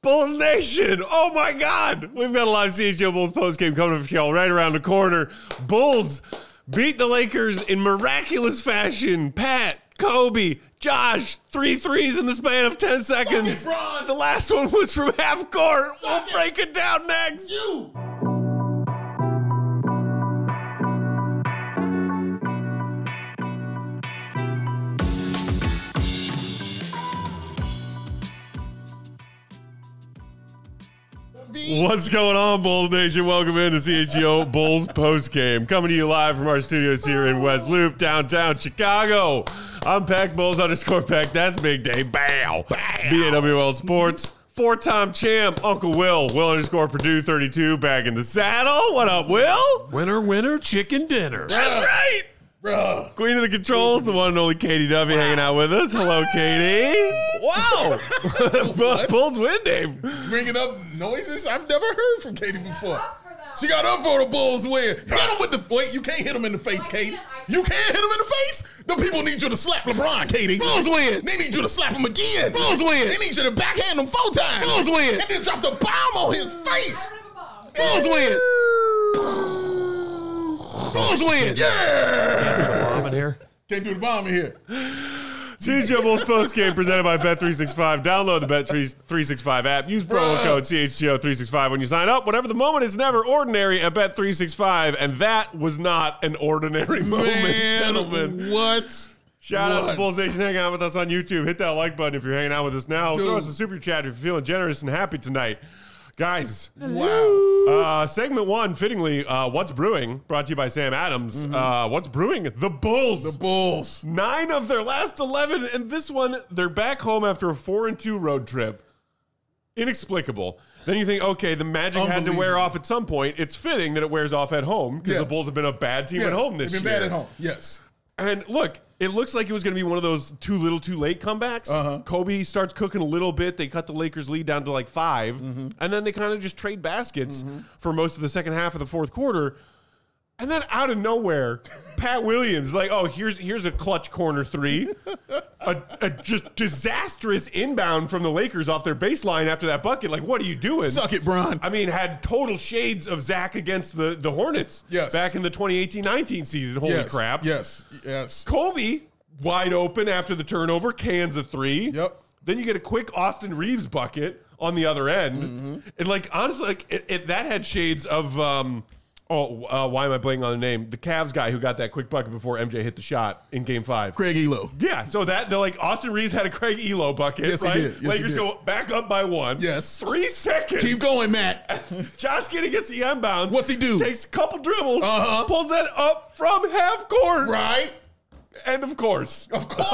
Bulls Nation, oh my God. We've got a live CHGO Bulls postgame coming up for y'all right around the corner. Bulls beat the Lakers in miraculous fashion. Pat, Kobe, Josh, 3 threes in the span of 10 seconds. The last one was from half court. We'll break it down next. What's going on, Bulls Nation? Welcome into CHGO Bulls postgame. Coming to you live from our studios here in West Loop, downtown Chicago. I'm Pack Bulls _Pack. That's Big Day. Bow. BAWL Sports. 4-time champ, Uncle Will. Will _Purdue 32 back in the saddle. What up, Will? Winner, winner, chicken dinner. That's right. Bro. Queen of the controls, the one and only Katie Duffy hanging out with us. Hello, Katie. Wow. Bulls win, Dave. Bringing up noises I've never heard from Katie before. She got up for the Bulls win. Hit him with the wait. You can't hit him in the face, Katie. You can't hit him in the face. The people need you to slap LeBron, Katie. Bulls win. They need you to slap him again. Bulls win. They need you to backhand him 4 times. Bulls win. And then drop the bomb on his face. Bulls win. Bulls win. Yeah. Can't do the bomb in here. CHGO Bulls postgame presented by Bet365. Download the Bet365 app. Use promo code CHGO365 when you sign up. Whatever the moment is never ordinary at Bet365. And that was not an ordinary moment, gentlemen. What? Shout out to Bulls Nation hanging out with us on YouTube. Hit that like button if you're hanging out with us now. Throw us a super chat if you're feeling generous and happy tonight. Guys, wow. Segment 1, fittingly, What's Brewing, brought to you by Sam Adams. What's Brewing? The Bulls. The Bulls. 9 of their last 11, and this one, they're back home after a 4-2 road trip. Inexplicable. Then you think, okay, the magic had to wear off at some point. It's fitting that it wears off at home, because the Bulls have been a bad team at home this year. They've been bad at home, yes. And look, it looks like it was going to be one of those too little, too late comebacks. Kobe starts cooking a little bit. They cut the Lakers lead down to like 5. And then they kind of just trade baskets for most of the second half of the fourth quarter. And then out of nowhere, Pat Williams, like, oh, here's a clutch corner 3. A just disastrous inbound from the Lakers off their baseline after that bucket. Like, what are you doing? Suck it, Bron. I mean, had total shades of Zach against the Hornets back in the 2018-19 season. Holy crap. Yes. Kobe, wide open after the turnover, cans a 3. Yep. Then you get a quick Austin Reeves bucket on the other end. And, like, honestly, like, that had shades of... why am I blanking on the name? The Cavs guy who got that quick bucket before MJ hit the shot in Game 5. Craig Elo. Yeah, so they're like, Austin Reeves had a Craig Elo bucket, yes, right? He did. Yes, Lakers he did. go back up by 1. Yes. 3 seconds. Keep going, Matt. Josh Giddey gets the inbounds. What's he do? Takes a couple dribbles, pulls that up from half court. Right. And of course.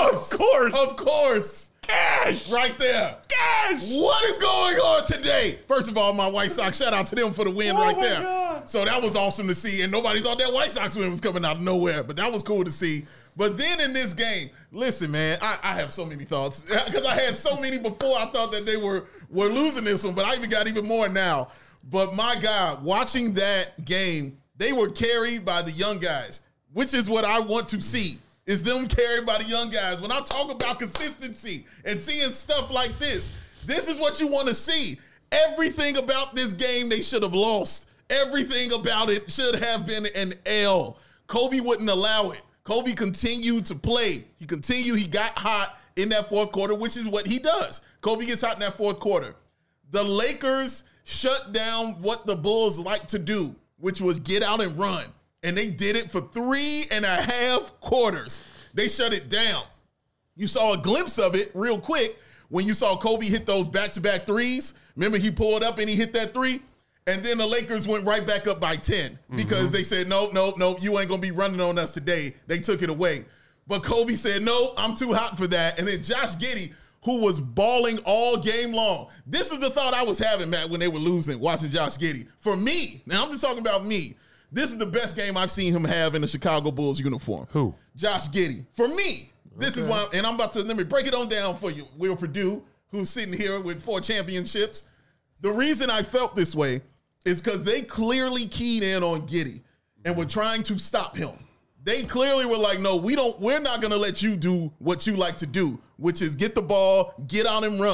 Cash! Right there. Cash! What is going on today? First of all, my White Sox, shout out to them for the win right there. God. So that was awesome to see, and nobody thought that White Sox win was coming out of nowhere, but that was cool to see. But then in this game, listen, man, I have so many thoughts because I had so many before. I thought that they were losing this one, but I even got even more now. But my God, watching that game, they were carried by the young guys, which is what I want to see. Is them carried by the young guys. When I talk about consistency and seeing stuff like this is what you want to see. Everything about this game they should have lost. Everything about it should have been an L. Kobe wouldn't allow it. Kobe continued to play. He got hot in that fourth quarter, which is what he does. Kobe gets hot in that fourth quarter. The Lakers shut down what the Bulls like to do, which was get out and run. And they did it for 3.5 quarters. They shut it down. You saw a glimpse of it real quick when you saw Kobe hit those back-to-back threes. Remember, he pulled up and he hit that 3? And then the Lakers went right back up by 10 because they said, nope, you ain't going to be running on us today. They took it away. But Kobe said, no, I'm too hot for that. And then Josh Giddey, who was balling all game long. This is the thought I was having, Matt, when they were losing, watching Josh Giddey. For me, now I'm just talking about me. This is the best game I've seen him have in a Chicago Bulls uniform. Who? Josh Giddey. For me, this is why, and I'm about to, let me break it on down for you. Will Purdue, who's sitting here with 4 championships. The reason I felt this way is because they clearly keyed in on Giddey and were trying to stop him. They clearly were like, no, we're not going to let you do what you like to do, which is get the ball, get out and run.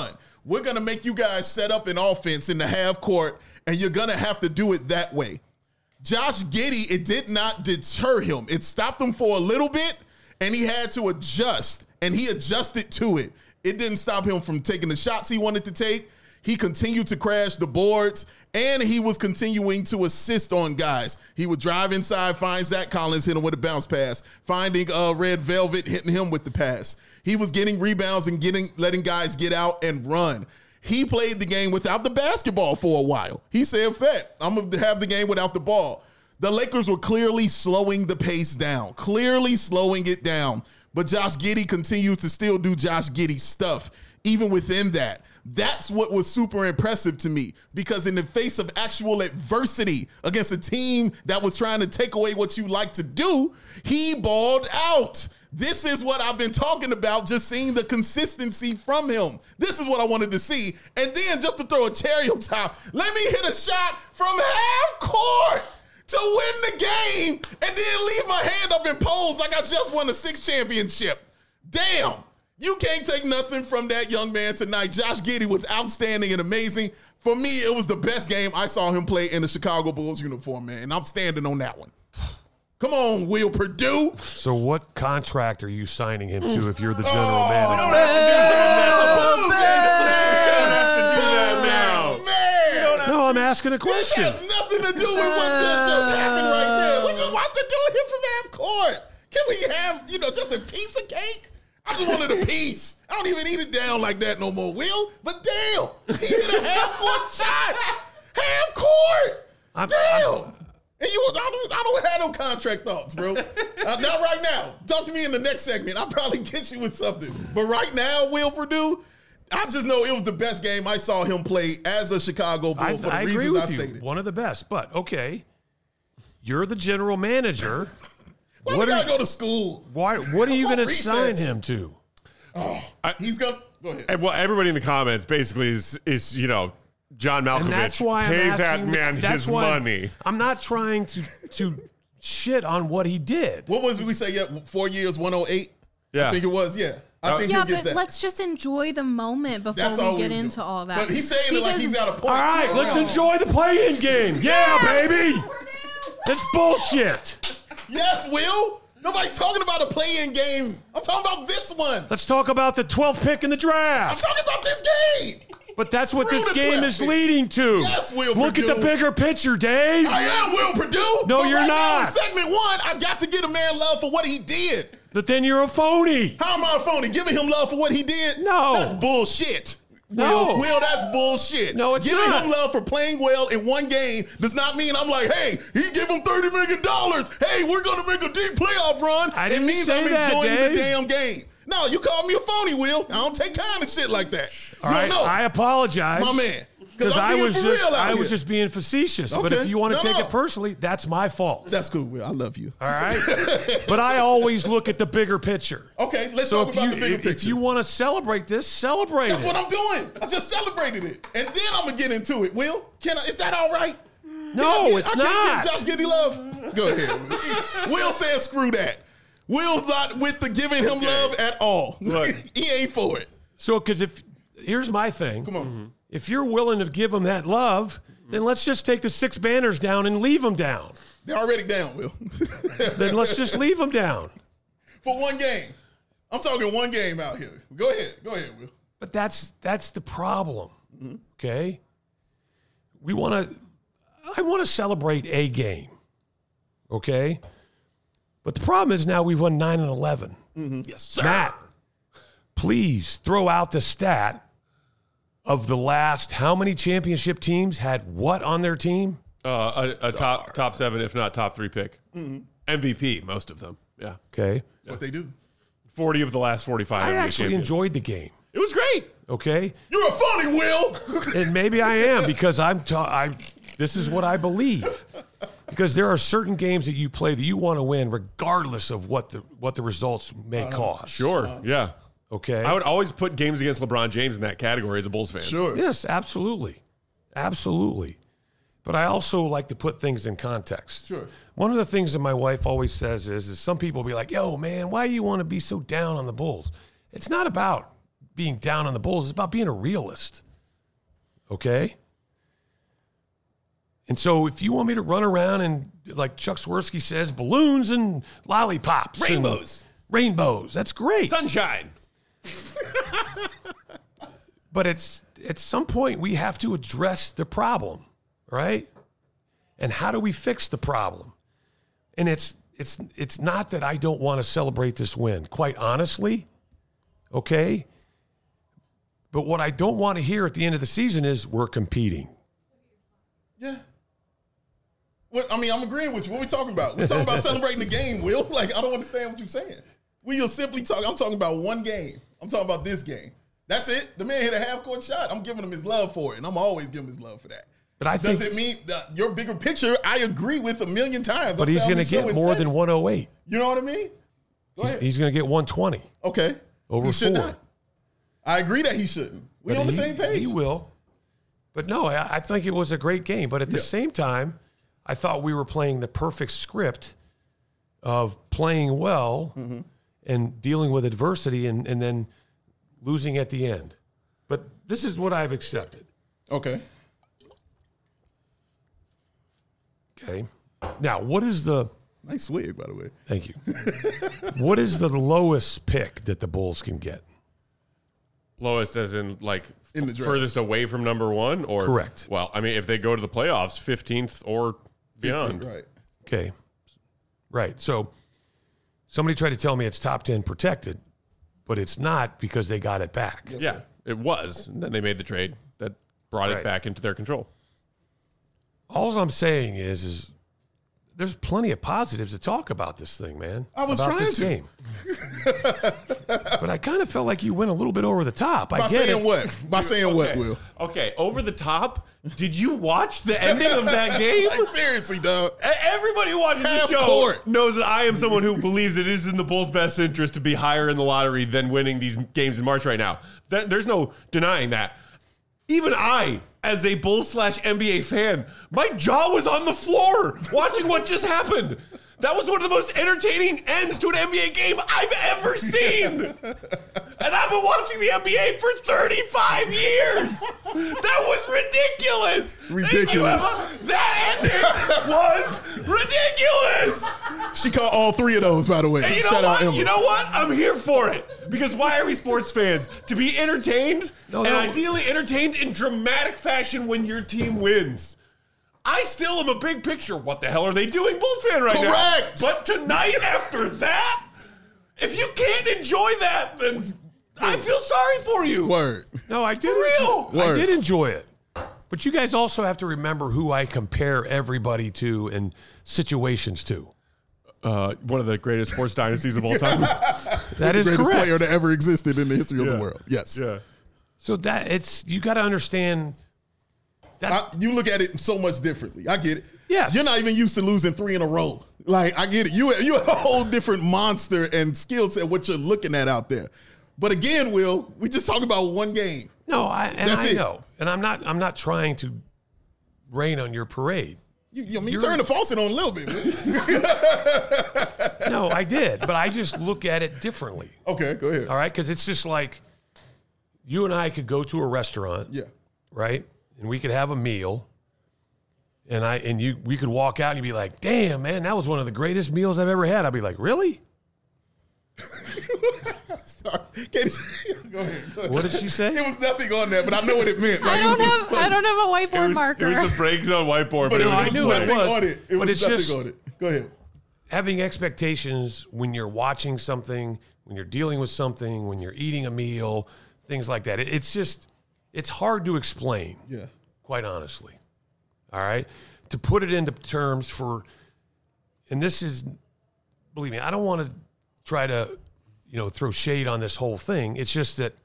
we're going to make you guys set up an offense in the half court, and you're going to have to do it that way. Josh Giddey, it did not deter him. It stopped him for a little bit, and he had to adjust, and he adjusted to it. It didn't stop him from taking the shots he wanted to take. He continued to crash the boards, and he was continuing to assist on guys. He would drive inside, find Zach Collins, hit him with a bounce pass, finding Red Velvet, hitting him with the pass. He was getting rebounds and letting guys get out and run. He played the game without the basketball for a while. He said, "Fet, I'm going to have the game without the ball." The Lakers were clearly slowing the pace down, clearly slowing it down. But Josh Giddey continues to still do Josh Giddey stuff, even within that. That's what was super impressive to me, because in the face of actual adversity against a team that was trying to take away what you like to do, he balled out. This is what I've been talking about, just seeing the consistency from him. This is what I wanted to see. And then just to throw a cherry on top, let me hit a shot from half court to win the game and then leave my hand up in pose like I just won a 6 championship. Damn. You can't take nothing from that young man tonight. Josh Giddey was outstanding and amazing. For me, it was the best game I saw him play in the Chicago Bulls uniform, man. And I'm standing on that one. Come on, Will Perdue. So what contract are you signing him to if you're the general manager? You don't have to do that now. No, I'm asking a question. This has nothing to do with what just happened right there. We just watched the dude hit from half court. Can we have, just a piece of cake? I just wanted a piece. I don't even eat it down like that no more, Will. But damn, he hit a half-court shot. Half court. Damn. And I don't have no contract thoughts, bro. Not right now. Talk to me in the next segment. I'll probably get you with something. But right now, Will Perdue, I just know it was the best game I saw him play as a Chicago Bull for the reasons I stated. One of the best. But, okay, you're the general manager. Why we gotta go to school? What are you going to sign him to? He's going to go ahead. And, well, everybody in the comments basically is John Malkovich. And that's why I'm pay asking, that man his money. I'm not trying to shit on what he did. What was we say? Yeah, 4 years, 108. Yeah, I think it was. Yeah, I think he'll get that. Let's just enjoy the moment before we get into all that. But he's saying it like he's got a point. All right, let's enjoy the play-in game. Yeah, baby. It's bullshit. Yes, Will. Nobody's talking about a play-in game. I'm talking about this one. Let's talk about the 12th pick in the draft. I'm talking about this game. But that's what this game is leading to. Yes, Will Look Perdue. at the bigger picture, Dave. I am Will Perdue. No, but you're right now not. in segment 1, I got to get a man love for what he did. But then you're a phony. How am I a phony? Giving him love for what he did? No. That's bullshit. No. Will, that's bullshit. No, it's Giving not. him love for playing well in one game does not mean I'm like, hey, he give him $30 million. Hey, we're going to make a deep playoff run. I didn't it means say I'm that, enjoying Dave. the damn game. No, you called me a phony, Will. I don't take kind of shit like that. All right, I apologize. My man. Because I was here. just being facetious. But Okay. if you want to No, take no. it personally, that's my fault. That's cool, Will. I love you. All right? But I always look at the bigger picture. Okay, let's So talk about the bigger picture. if you want to celebrate this, celebrate That's it. what I'm doing. I just celebrated it. And then I'm going to get into it, Will. Is that all right? No, it's I not. can't get Josh Giddey love. Go ahead. Will says screw that. Will's not with the giving him love at all. Look. He ain't for it. So, because here's my thing. Come on. If you're willing to give them that love, then let's just take the 6 banners down and leave them down. They're already down, Will. Then let's just leave them down. For one game. I'm talking one game out here. Go ahead, Will. But that's the problem. Okay? I want to celebrate a game. Okay? But the problem is now we've won 9 and 11. Yes, sir. Matt, please throw out the stat of the last how many championship teams had what on their team? A top 7, if not top 3 pick. MVP, most of them. Yeah. Okay. What they do. 40 of the last 45. I NBA actually champions. enjoyed the game. It was great. Okay. You're a phony, Will. And maybe I am because this is what I believe. Because there are certain games that you play that you want to win regardless of what the results may cost. Sure. Yeah. Okay. I would always put games against LeBron James in that category as a Bulls fan. Sure. Yes, absolutely. Absolutely. But I also like to put things in context. Sure. One of the things that my wife always says is some people be like, yo, man, why do you want to be so down on the Bulls? It's not about being down on the Bulls. It's about being a realist. Okay? And so if you want me to run around and, like Chuck Swirsky says, balloons and lollipops. Rainbows. That's great. Sunshine. But at some point, we have to address the problem, right? And how do we fix the problem? And it's not that I don't want to celebrate this win, quite honestly, okay? But what I don't want to hear at the end of the season is we're competing. Yeah. I mean, I'm agreeing with you. What are we talking about? We're talking about celebrating the game, Will. Like, I don't understand what you're saying. I'm talking about one game. I'm talking about this game. That's it. The man hit a half-court shot. I'm giving him his love for it, and I'm always giving him his love for that. But I think, does it mean that your bigger picture? I agree with a million times. But he's going to get more than 108. You know what I mean? Go ahead. He's going to get 120. Okay. Over 4. I agree that he shouldn't. We're on the same page. He will. But no, I think it was a great game. But at the same time, I thought we were playing the perfect script of playing well and dealing with adversity and then losing at the end. But this is what I've accepted. Okay. Now, what is the... Nice swig, by the way. Thank you. What is the lowest pick that the Bulls can get? Lowest as in, like, in the draft. Furthest away from number one? Or Correct. Well, I mean, if they go to the playoffs, 15th or beyond. 15, right. Okay. Right. So somebody tried to tell me it's top 10 protected, but it's not because they got it back. Yes, Yeah, it was. And then they made the trade that brought it back into their control. All I'm saying is there's plenty of positives to talk about this thing, man. I was about trying this to. game. But I kind of felt like you went a little bit over the top. By saying what? By saying what, Will? Okay, over the top. Did you watch the ending of that game? Like, seriously, dog. Everybody who watches the show court. knows that I am someone who believes it is in the Bulls' best interest to be higher in the lottery than winning these games in March right now. There's no denying that. Even I, as a Bulls/NBA fan, my jaw was on the floor watching what just happened. That was one of the most entertaining ends to an NBA game I've ever seen. And I've been watching the NBA for 35 years. That was ridiculous. Ridiculous. That ending was ridiculous. She caught all three of those, by the way. And you know Shout out what? Emma. You know what? I'm here for it. Because why are we sports fans? To be entertained, and ideally entertained in dramatic fashion when your team wins. I still am a big picture. What the hell are they doing, Bulls fan right now? Correct. But tonight, after that, if you can't enjoy that, then I feel sorry for you. Word. No, I did. I did enjoy it. But you guys also have to remember who I compare everybody to and situations to. One of the greatest sports dynasties of all time. That is the greatest correct. player that ever existed in the history of the world. Yes. Yeah. So you got to understand. You look at it so much differently. I get it. Yes. You're not even used to losing 3 in a row. Like, I get it. You have a whole different monster and skill set, what you're looking at out there. But again, Will, we just talk about one game. No, I know. And I'm not trying to rain on your parade. You turned the faucet on a little bit. No, I did. But I just look at it differently. Okay, go ahead. All right? Because it's just like you and I could go to a restaurant. Yeah. Right? And we could have a meal. We could walk out and you'd be like, damn, man, that was one of the greatest meals I've ever had. I'd be like, really? Sorry. Go ahead. What did she say? It was nothing on that, but I know what it meant. I don't have a whiteboard marker. It was the break zone whiteboard, but I knew what it was. On it. It But was it's nothing just on it. Go ahead. having expectations when you're watching something, when you're dealing with something, when you're eating a meal, things like that. It's hard to explain. Yeah. Quite honestly. All right? To put it into terms and this is, believe me, I don't want to try to, throw shade on this whole thing. It's just that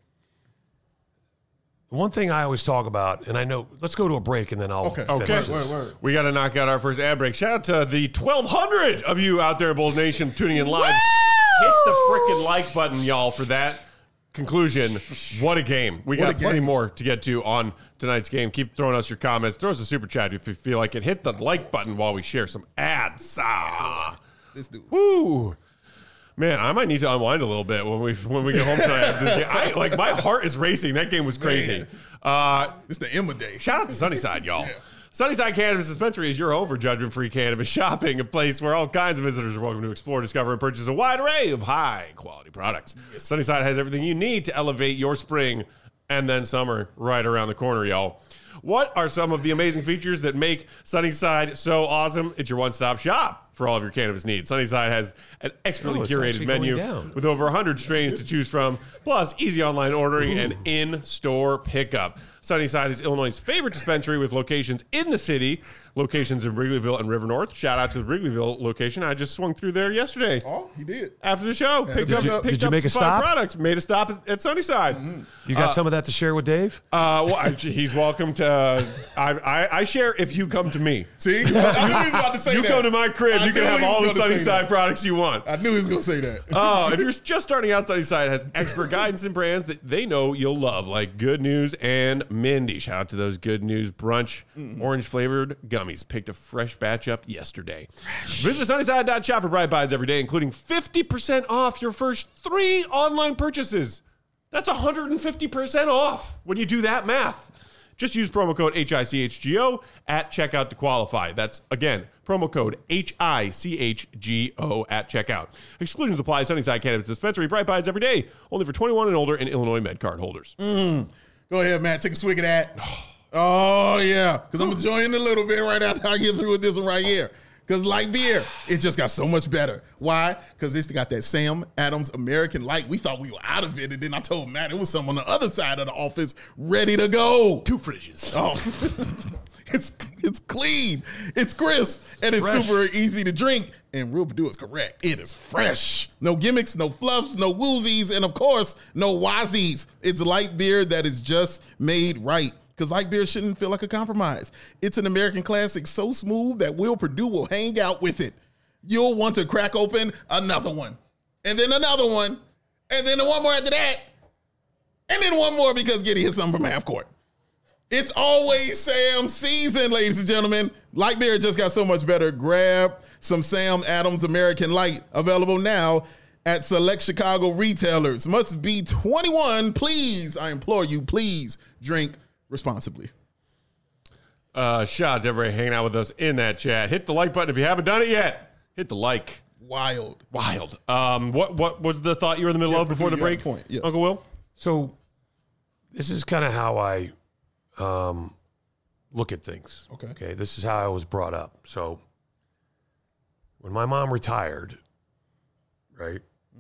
one thing I always talk about, and I know, let's go to a break and then I'll finish this. Word. We got to knock out our first ad break. Shout out to the 1,200 of you out there in Bulls Nation tuning in live. Hit the freaking like button, y'all, for that conclusion. What a game. We got plenty more to get to on tonight's game. Keep throwing us your comments. Throw us a super chat if you feel like it. Hit the like button while we share some ads. This dude. Woo. Man, I might need to unwind a little bit when we get home tonight. Like my heart is racing. That game was crazy. It's the Emma Day. Shout out to Sunnyside, y'all. Yeah. Sunnyside Cannabis Dispensary is your home for judgment-free cannabis shopping, a place where all kinds of visitors are welcome to explore, discover, and purchase a wide array of high-quality products. Yes. Sunnyside has everything you need to elevate your spring and then summer right around the corner, y'all. What are some of the amazing features that make Sunnyside so awesome? It's your one-stop shop for all of your cannabis needs. Sunnyside has an expertly curated menu with over 100 strains to choose from, plus easy online ordering and in-store pickup. Sunnyside is Illinois' favorite dispensary with locations in the city, locations in Wrigleyville and River North. Shout out to the Wrigleyville location. I just swung through there yesterday. Oh, he did. After the show. Picked up did you make a stop? Products. Made a stop at Sunnyside. You got some of that to share with Dave? He's welcome to... I share if you come to me. See? I knew he was about to say that. You come to my crib, you can have all the Sunnyside products you want. I knew he was going to say that. If you're just starting out, Sunnyside has expert guidance and brands that they know you'll love, like Good News and Mindy. Shout out to those Good News Brunch orange-flavored gummies. Picked a fresh batch up yesterday. Visit Sunnyside.shop for Bright Buys every day, including 50% off your first 3 online purchases. That's 150% off when you do that math. Just use promo code HICHGO at checkout to qualify. That's, again, promo code HICHGO at checkout. Exclusions apply. Sunnyside Cannabis Dispensary. Bright Buys every day. Only for 21 and older and Illinois MedCard holders. Go ahead, Matt. Take a swig of that. Oh, yeah. Because I'm enjoying it a little bit right after I get through with this one right here. Because like beer, it just got so much better. Why? Because it's got that Sam Adams American Light. We thought we were out of it, and then I told Matt it was some on the other side of the office ready to go. 2 fridges. Oh, it's clean, it's crisp, and it's super easy to drink. And Real Purdue is correct. It is fresh. No gimmicks, no fluffs, no woozies, and of course, no wazies. It's light beer that is just made right. Because light beer shouldn't feel like a compromise. It's an American classic so smooth that Will Purdue will hang out with it. You'll want to crack open another one. And then another one. And then one more after that. And then one more because Giddy hit something from half court. It's always Sam season, ladies and gentlemen. Light beer just got so much better. Grab some Sam Adams American Light. Available now at select Chicago retailers. Must be 21. Please, I implore you, please drink responsibly. Shout out to everybody hanging out with us in that chat. Hit the like button if you haven't done it yet. Hit the like. Wild. What was the thought you were in the middle of before the break, point. Yes. Uncle Will? So this is kind of how I look at things. Okay. This is how I was brought up. So when my mom retired, right?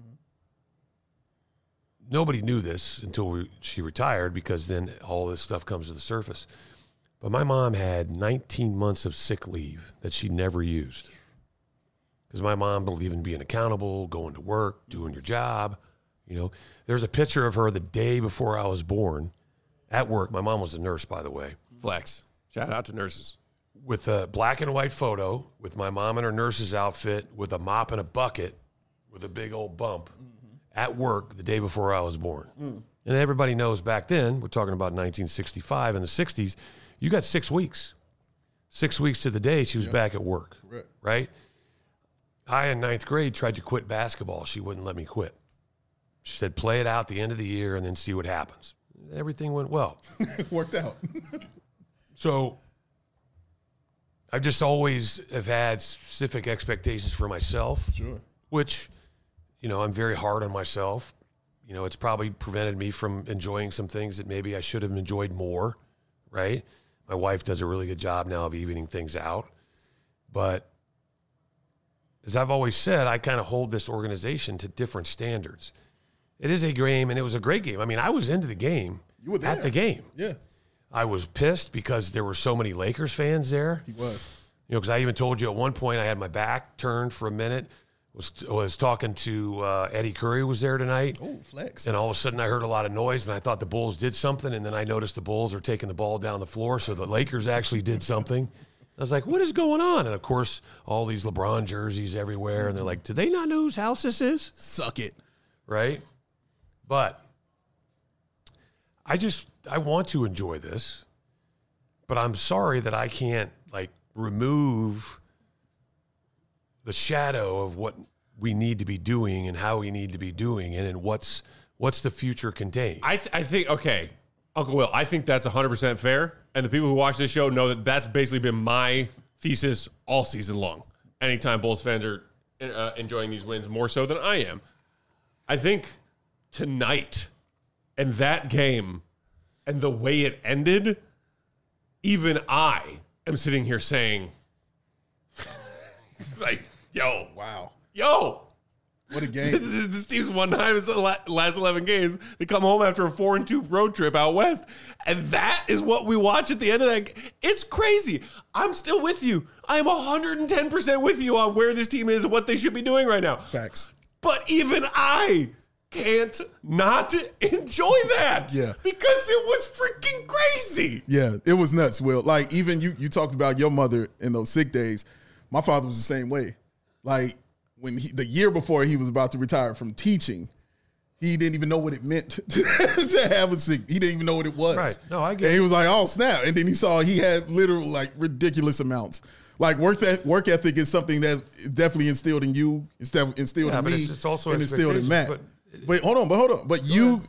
Nobody knew this until she retired, because then all this stuff comes to the surface. But my mom had 19 months of sick leave that she never used. Because my mom believed in being accountable, going to work, doing your job. You know, there's a picture of her the day before I was born at work. My mom was a nurse, by the way. Flex. Shout out to nurses. With a black and white photo with my mom in her nurse's outfit with a mop and a bucket with a big old bump. At work the day before I was born. And everybody knows back then, we're talking about 1965 and the 60s, you got 6 weeks. 6 weeks to the day she was back at work, right? I, in 9th grade, tried to quit basketball. She wouldn't let me quit. She said, play it out the end of the year and then see what happens. Everything went well. Worked out. So I just always have had specific expectations for myself, which... You know, I'm very hard on myself. You know, it's probably prevented me from enjoying some things that maybe I should have enjoyed more, right? My wife does a really good job now of evening things out. But as I've always said, I kind of hold this organization to different standards. It is a game, and it was a great game. I mean, I was into the game. You were there. At the game. Yeah. I was pissed because there were so many Lakers fans there. He was. You know, because I even told you at one point I had my back turned for a minute. Was talking to Eddie Curry was there tonight. Oh, flex. And all of a sudden I heard a lot of noise, and I thought the Bulls did something, and then I noticed the Bulls are taking the ball down the floor, so the Lakers actually did something. I was like, what is going on? And, of course, all these LeBron jerseys everywhere, and they're like, do they not know whose house this is? Suck it. Right? But I want to enjoy this, but I'm sorry that I can't, like, remove the shadow of what we need to be doing and how we need to be doing it, and what's the future contain. I think, okay, Uncle Will, I think that's 100% fair. And the people who watch this show know that that's basically been my thesis all season long. Anytime Bulls fans are enjoying these wins more so than I am. I think tonight and that game and the way it ended, even I am sitting here saying, like, yo. Wow. Yo. What a game. This team's won 9 of the last 11 games. They come home after a 4-2 road trip out west. And that is what we watch at the end of that. It's crazy. I'm still with you. I am 110% with you on where this team is and what they should be doing right now. Facts. But even I can't not enjoy that. Yeah. Because it was freaking crazy. Yeah, it was nuts, Will. Like, even you talked about your mother in those sick days. My father was the same way. Like, when the year before he was about to retire from teaching, he didn't even know what it meant to have a sick. He didn't even know what it was. Right. No, I get it. And he was like, oh, snap. And then he saw he had literal, like, ridiculous amounts. Like, work ethic is something that is definitely instilled in you, instilled in me, it's also and instilled in Matt. But hold on. But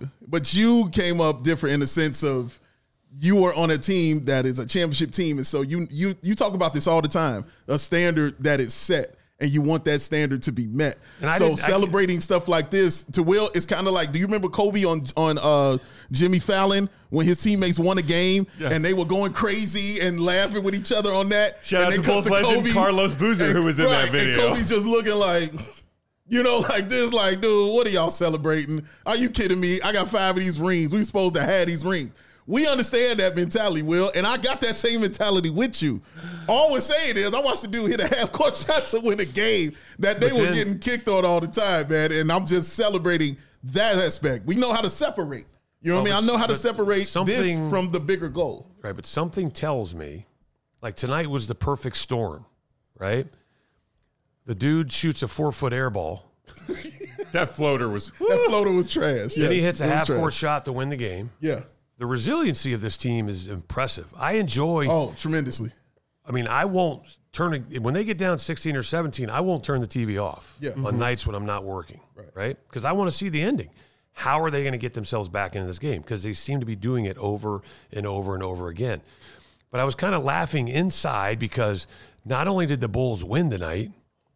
you came up different in the sense of you were on a team that is a championship team. And so you talk about this all the time, a standard that is set. And you want that standard to be met. So celebrating stuff like this, to Will, it's kind of like, do you remember Kobe on Jimmy Fallon when his teammates won a game and they were going crazy and laughing with each other on that? Shout out to Bulls legend Carlos Boozer, who was in that video. And Kobe's just looking like, like this, like, dude, what are y'all celebrating? Are you kidding me? I got 5 of these rings. We supposed to have these rings. We understand that mentality, Will, and I got that same mentality with you. All we're saying is I watched the dude hit a half-court shot to win a game that they were getting kicked on all the time, man, and I'm just celebrating that aspect. We know how to separate. You know what I mean? I know how to separate this from the bigger goal. Right, but something tells me, like tonight was the perfect storm, right? The dude shoots a 4-foot air ball. That floater was trash. Then he hits a half-court shot to win the game. Yeah. The resiliency of this team is impressive. I enjoy. Oh, tremendously. I mean, I won't turn it when they get down 16 or 17. I won't turn the TV off on nights when I'm not working, right? Because I want to see the ending. How are they going to get themselves back into this game? Because they seem to be doing it over and over and over again. But I was kind of laughing inside because not only did the Bulls win tonight,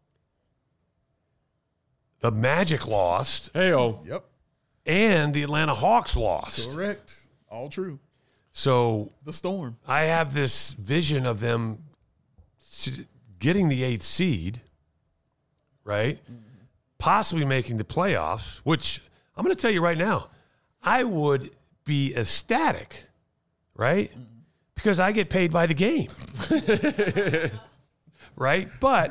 the Magic lost. Hey-oh. Yep. And the Atlanta Hawks lost. Correct. All true. So the storm. I have this vision of them getting the 8th seed, right? Mm-hmm. Possibly making the playoffs, which I'm going to tell you right now, I would be ecstatic, right? Mm-hmm. Because I get paid by the game, right? But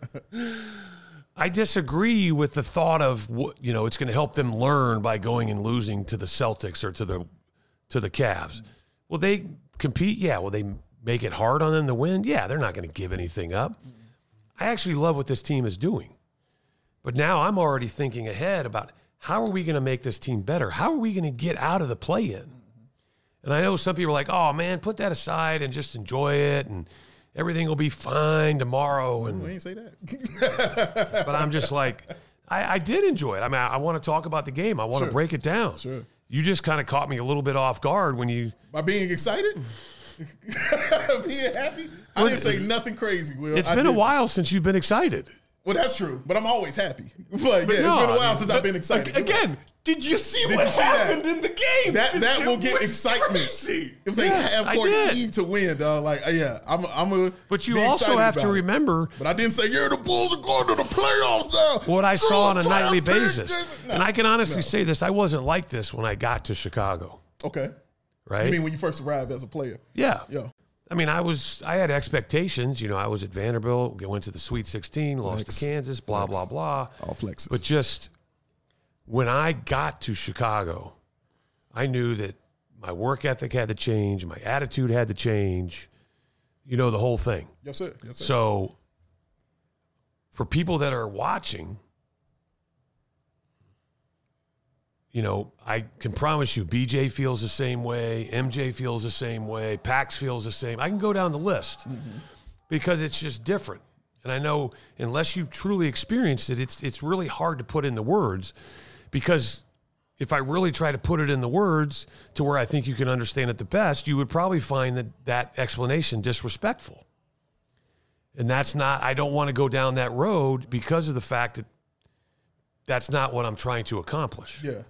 I disagree with the thought of, it's going to help them learn by going and losing to the Celtics or to the Cavs. Will they compete? Yeah. Will they make it hard on them to win? Yeah, they're not going to give anything up. I actually love what this team is doing. But now I'm already thinking ahead about how are we going to make this team better? How are we going to get out of the play-in? And I know some people are like, oh, man, put that aside and just enjoy it, and everything will be fine tomorrow. And we ain't say that. But I'm just like, I did enjoy it. I mean, I want to talk about the game. I want to break it down. Sure. You just kind of caught me a little bit off guard when you... By being excited? Being happy? I didn't say nothing crazy, Will. It's been a while since you've been excited. Well, that's true, but I'm always happy. It's been a while since I've been excited. Again, did you see what happened in the game? That will get excitement. Crazy. It was like half-court Eve to win, dog. Like, I'm a. But you also have to remember. But I didn't say, the Bulls are going to the playoffs now. What I saw on a nightly basis. And I can honestly say this, I wasn't like this when I got to Chicago. Okay. Right? You mean when you first arrived as a player? Yeah. Yeah. I mean, I had expectations. I was at Vanderbilt, went to the Sweet 16, lost to Kansas, blah, blah, blah. All flexes. But just when I got to Chicago, I knew that my work ethic had to change, my attitude had to change, the whole thing. Yes, sir. Yes, sir. So for people that are watching, I can promise you BJ feels the same way, MJ feels the same way, Pax feels the same. I can go down the list because it's just different. And I know unless you've truly experienced it, it's really hard to put in the words, because if I really try to put it in the words to where I think you can understand it the best, you would probably find that explanation disrespectful. And that's not, I don't want to go down that road because of the fact that that's not what I'm trying to accomplish. Yeah.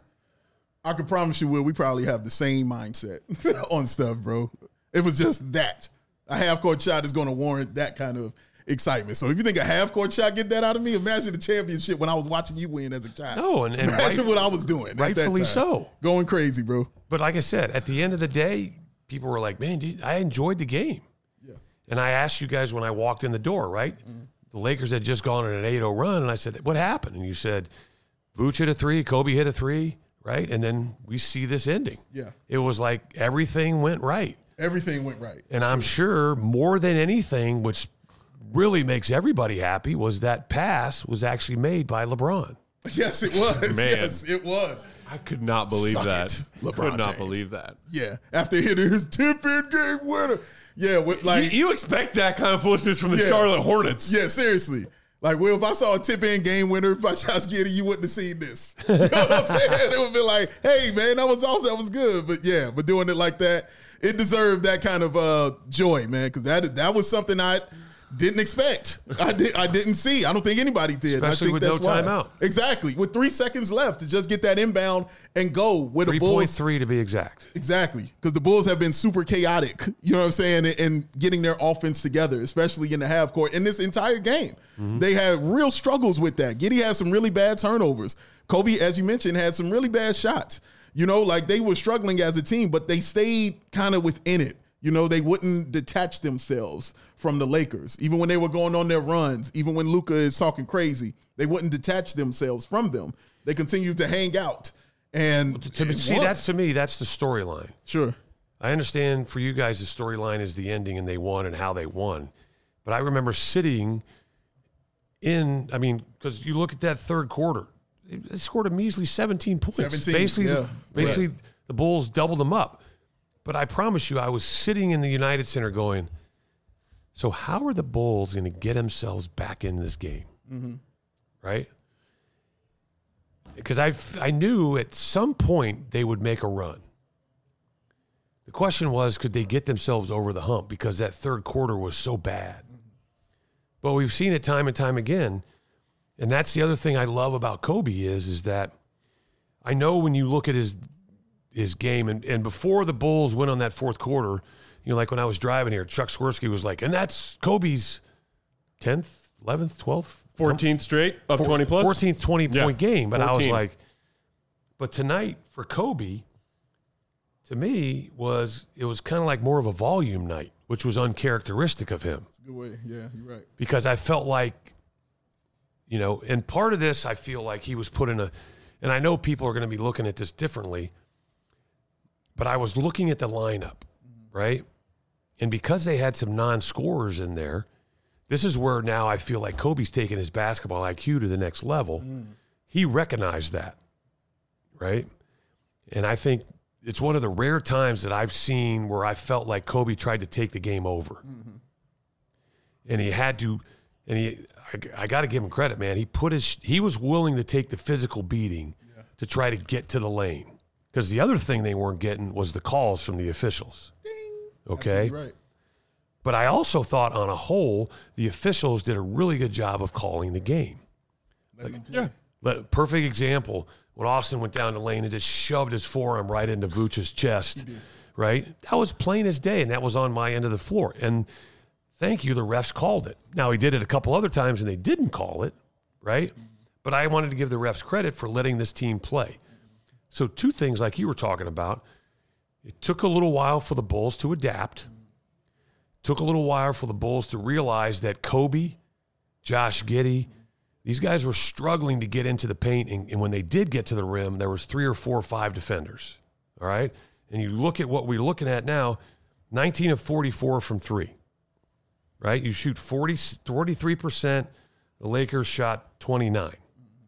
I can promise you, Will, we probably have the same mindset on stuff, bro. It was just that. A half-court shot is going to warrant that kind of excitement. So if you think a half-court shot get that out of me, imagine the championship when I was watching you win as a child. No, and imagine what I was doing. Rightfully so. Going crazy, bro. But like I said, at the end of the day, people were like, man, dude, I enjoyed the game. Yeah. And I asked you guys when I walked in the door, right? Mm-hmm. The Lakers had just gone on an 8-0 run, and I said, what happened? And you said, Vooch hit a 3, Kobe hit a 3, right? And then we see this ending. Yeah. It was like everything went right. Everything went right. And I'm sure more than anything, which really makes everybody happy, was that pass was actually made by LeBron. Yes, it was. Man. Yes, it was. I could not believe that. LeBron could not James. believe that. Yeah, after hitting his tip-in game winner. Yeah, with like You expect that kind of foolishness from the Charlotte Hornets. Yeah, seriously. Like, Will, if I saw a tip-in game winner by Josh Giddey, you wouldn't have seen this. You know what I'm saying? It would be like, hey, man, that was awesome. That was good. But, yeah, but doing it like that, it deserved that kind of joy, man, because that was something I didn't expect. I didn't see. I don't think anybody did. Especially I think with that's no timeout. Exactly. With 3 seconds left to just get that inbound and go with the Bulls. 3.3 to be exact. Exactly. Because the Bulls have been super chaotic, you know what I'm saying, and getting their offense together, especially in the half court. In this entire game, they had real struggles with that. Giddey had some really bad turnovers. Kobe, as you mentioned, had some really bad shots. You know, like they were struggling as a team, but they stayed kind of within it. You know, they wouldn't detach themselves from the Lakers. Even when they were going on their runs, even when Luka is talking crazy, they wouldn't detach themselves from them. They continued to hang out. And that's to me, that's the storyline. Sure. I understand for you guys the storyline is the ending and they won and how they won. But I remember sitting in, because you look at that third quarter, they scored a measly 17 points. 17, basically the Bulls doubled them up. But I promise you, I was sitting in the United Center going, so how are the Bulls going to get themselves back in this game? Mm-hmm. Right? Because I knew at some point they would make a run. The question was, could they get themselves over the hump? Because that third quarter was so bad. But we've seen it time and time again. And that's the other thing I love about Kobe is that I know when you look at his game, and before the Bulls went on that fourth quarter, like when I was driving here, Chuck Swirsky was like, and that's Kobe's 10th, 11th, 12th? 14th straight of 20 plus? 14th 20-point game. But 14. I was like, but tonight for Kobe, to me, it was kind of like more of a volume night, which was uncharacteristic of him. That's a good way. Yeah, you're right. Because I felt like, and part of this, I feel like he was put in and I know people are going to be looking at this differently, but I was looking at the lineup, right? And because they had some non-scorers in there, this is where now I feel like Kobe's taking his basketball IQ to the next level. He recognized that, right? And I think it's one of the rare times that I've seen where I felt like Kobe tried to take the game over. Mm-hmm. And he had to, I got to give him credit, man. He was willing to take the physical beating to try to get to the lane. Because the other thing they weren't getting was the calls from the officials. Ding. Okay? Absolutely right. But I also thought on a whole, the officials did a really good job of calling the game. Perfect example, when Austin went down the lane and just shoved his forearm right into Vooch's chest, right? That was plain as day, and that was on my end of the floor. And thank you, the refs called it. Now, he did it a couple other times, and they didn't call it, right? But I wanted to give the refs credit for letting this team play. So 2 things like you were talking about. It took a little while for the Bulls to adapt. Took a little while for the Bulls to realize that Kobe, Josh Giddey, these guys were struggling to get into the paint. And when they did get to the rim, there was 3 or 4 or 5 defenders. All right? And you look at what we're looking at now, 19 of 44 from 3. Right? You shoot 43%. The Lakers shot 29. I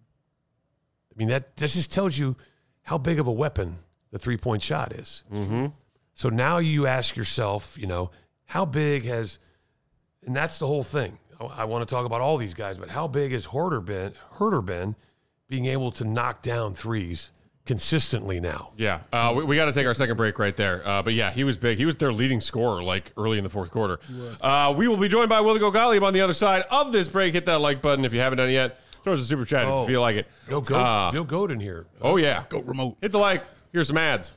mean, that just tells you how big of a weapon the three-point shot is. Mm-hmm. So now you ask yourself, how big has, and that's the whole thing. I want to talk about all these guys, but how big has Herter been being able to knock down threes consistently now? Yeah, we got to take our second break right there. But yeah, he was big. He was their leading scorer like early in the fourth quarter. We will be joined by Willie Gottlieb on the other side of this break. Hit that like button if you haven't done it yet. Throw us a super chat if you feel like it. No goat in here. Oh yeah, Goat remote. Hit the like. Here's some ads.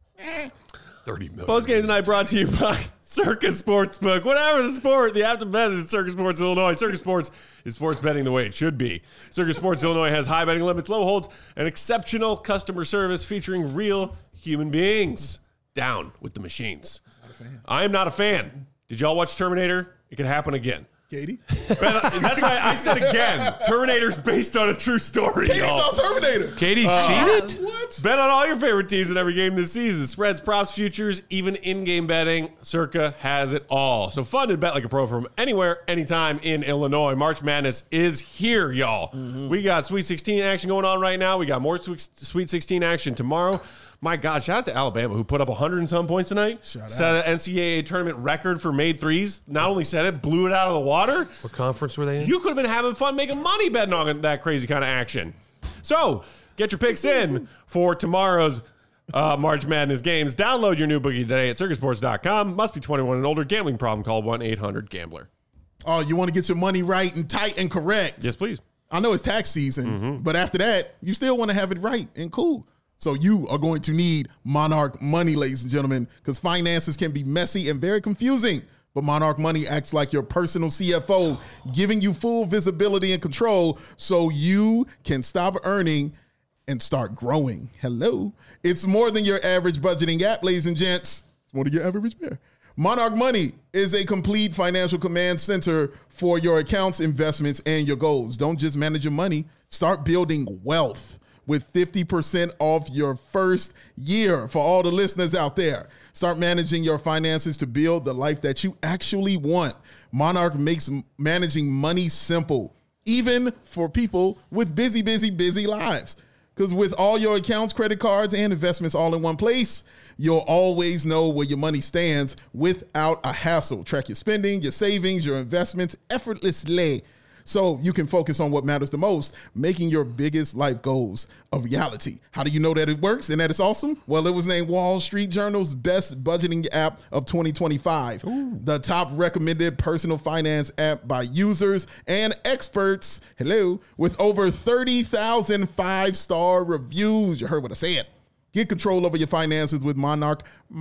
30 million. Post game tonight brought to you by Circus Sportsbook. Whatever the sport, the app to bet is Circus Sports Illinois. Circus Sports is sports betting the way it should be. Circus Sports Illinois has high betting limits, low holds, and exceptional customer service featuring real human beings. Down with the machines. I am not a fan. Did y'all watch Terminator? It could happen again. Katie? That's why I said again. Terminator's based on a true story. Katie saw Terminator. Katie's seen it? What? Bet on all your favorite teams in every game this season. Spreads, props, futures, even in-game betting. Circa has it all. So fun and bet like a pro from anywhere, anytime in Illinois. March Madness is here, y'all. We got Sweet 16 action going on right now. We got more Sweet 16 action tomorrow. My God, shout out to Alabama, who put up 100 and some points tonight. Set an NCAA tournament record for made threes. Not only set it, blew it out of the water. What conference were they in? You could have been having fun making money betting on that crazy kind of action. So, get your picks in for tomorrow's March Madness games. Download your new bookie today at circusports.com. Must be 21 and older. Gambling problem, call 1-800-GAMBLER. Oh, you want to get your money right and tight and correct. Yes, please. I know it's tax season, but after that, you still want to have it right and cool. So you are going to need Monarch Money, ladies and gentlemen, because finances can be messy and very confusing. But Monarch Money acts like your personal CFO, giving you full visibility and control so you can stop earning and start growing. Hello. It's more than your average budgeting app, ladies and gents. It's more than your average bear. Monarch Money is a complete financial command center for your accounts, investments, and your goals. Don't just manage your money. Start building wealth with 50% off your first year for all the listeners out there. Start managing your finances to build the life that you actually want. Monarch makes managing money simple, even for people with busy lives. Because with all your accounts, credit cards, and investments all in one place, you'll always know where your money stands without a hassle. Track your spending, your savings, your investments effortlessly, so you can focus on what matters the most, making your biggest life goals a reality. How do you know that it works and that it's awesome? Well, it was named Wall Street Journal's best budgeting app of 2025. The top recommended personal finance app by users and experts. Hello, with over 30,000 five-star reviews. You heard what I said. Get control over your finances with Monarch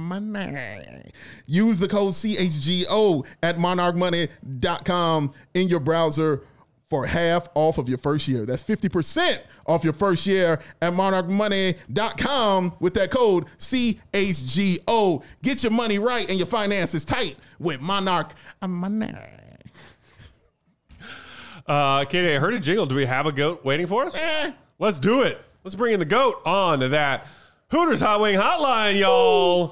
Money. Use the code CHGO at monarchmoney.com in your browser for half off of your first year. That's 50% off your first year at monarchmoney.com with that code CHGO. Get your money right and your finances tight with Monarch Money. Katie, I heard a jingle. Do we have a goat waiting for us? Let's do it. Let's bring in the goat on to that Hooters Hot Wing Hotline, y'all.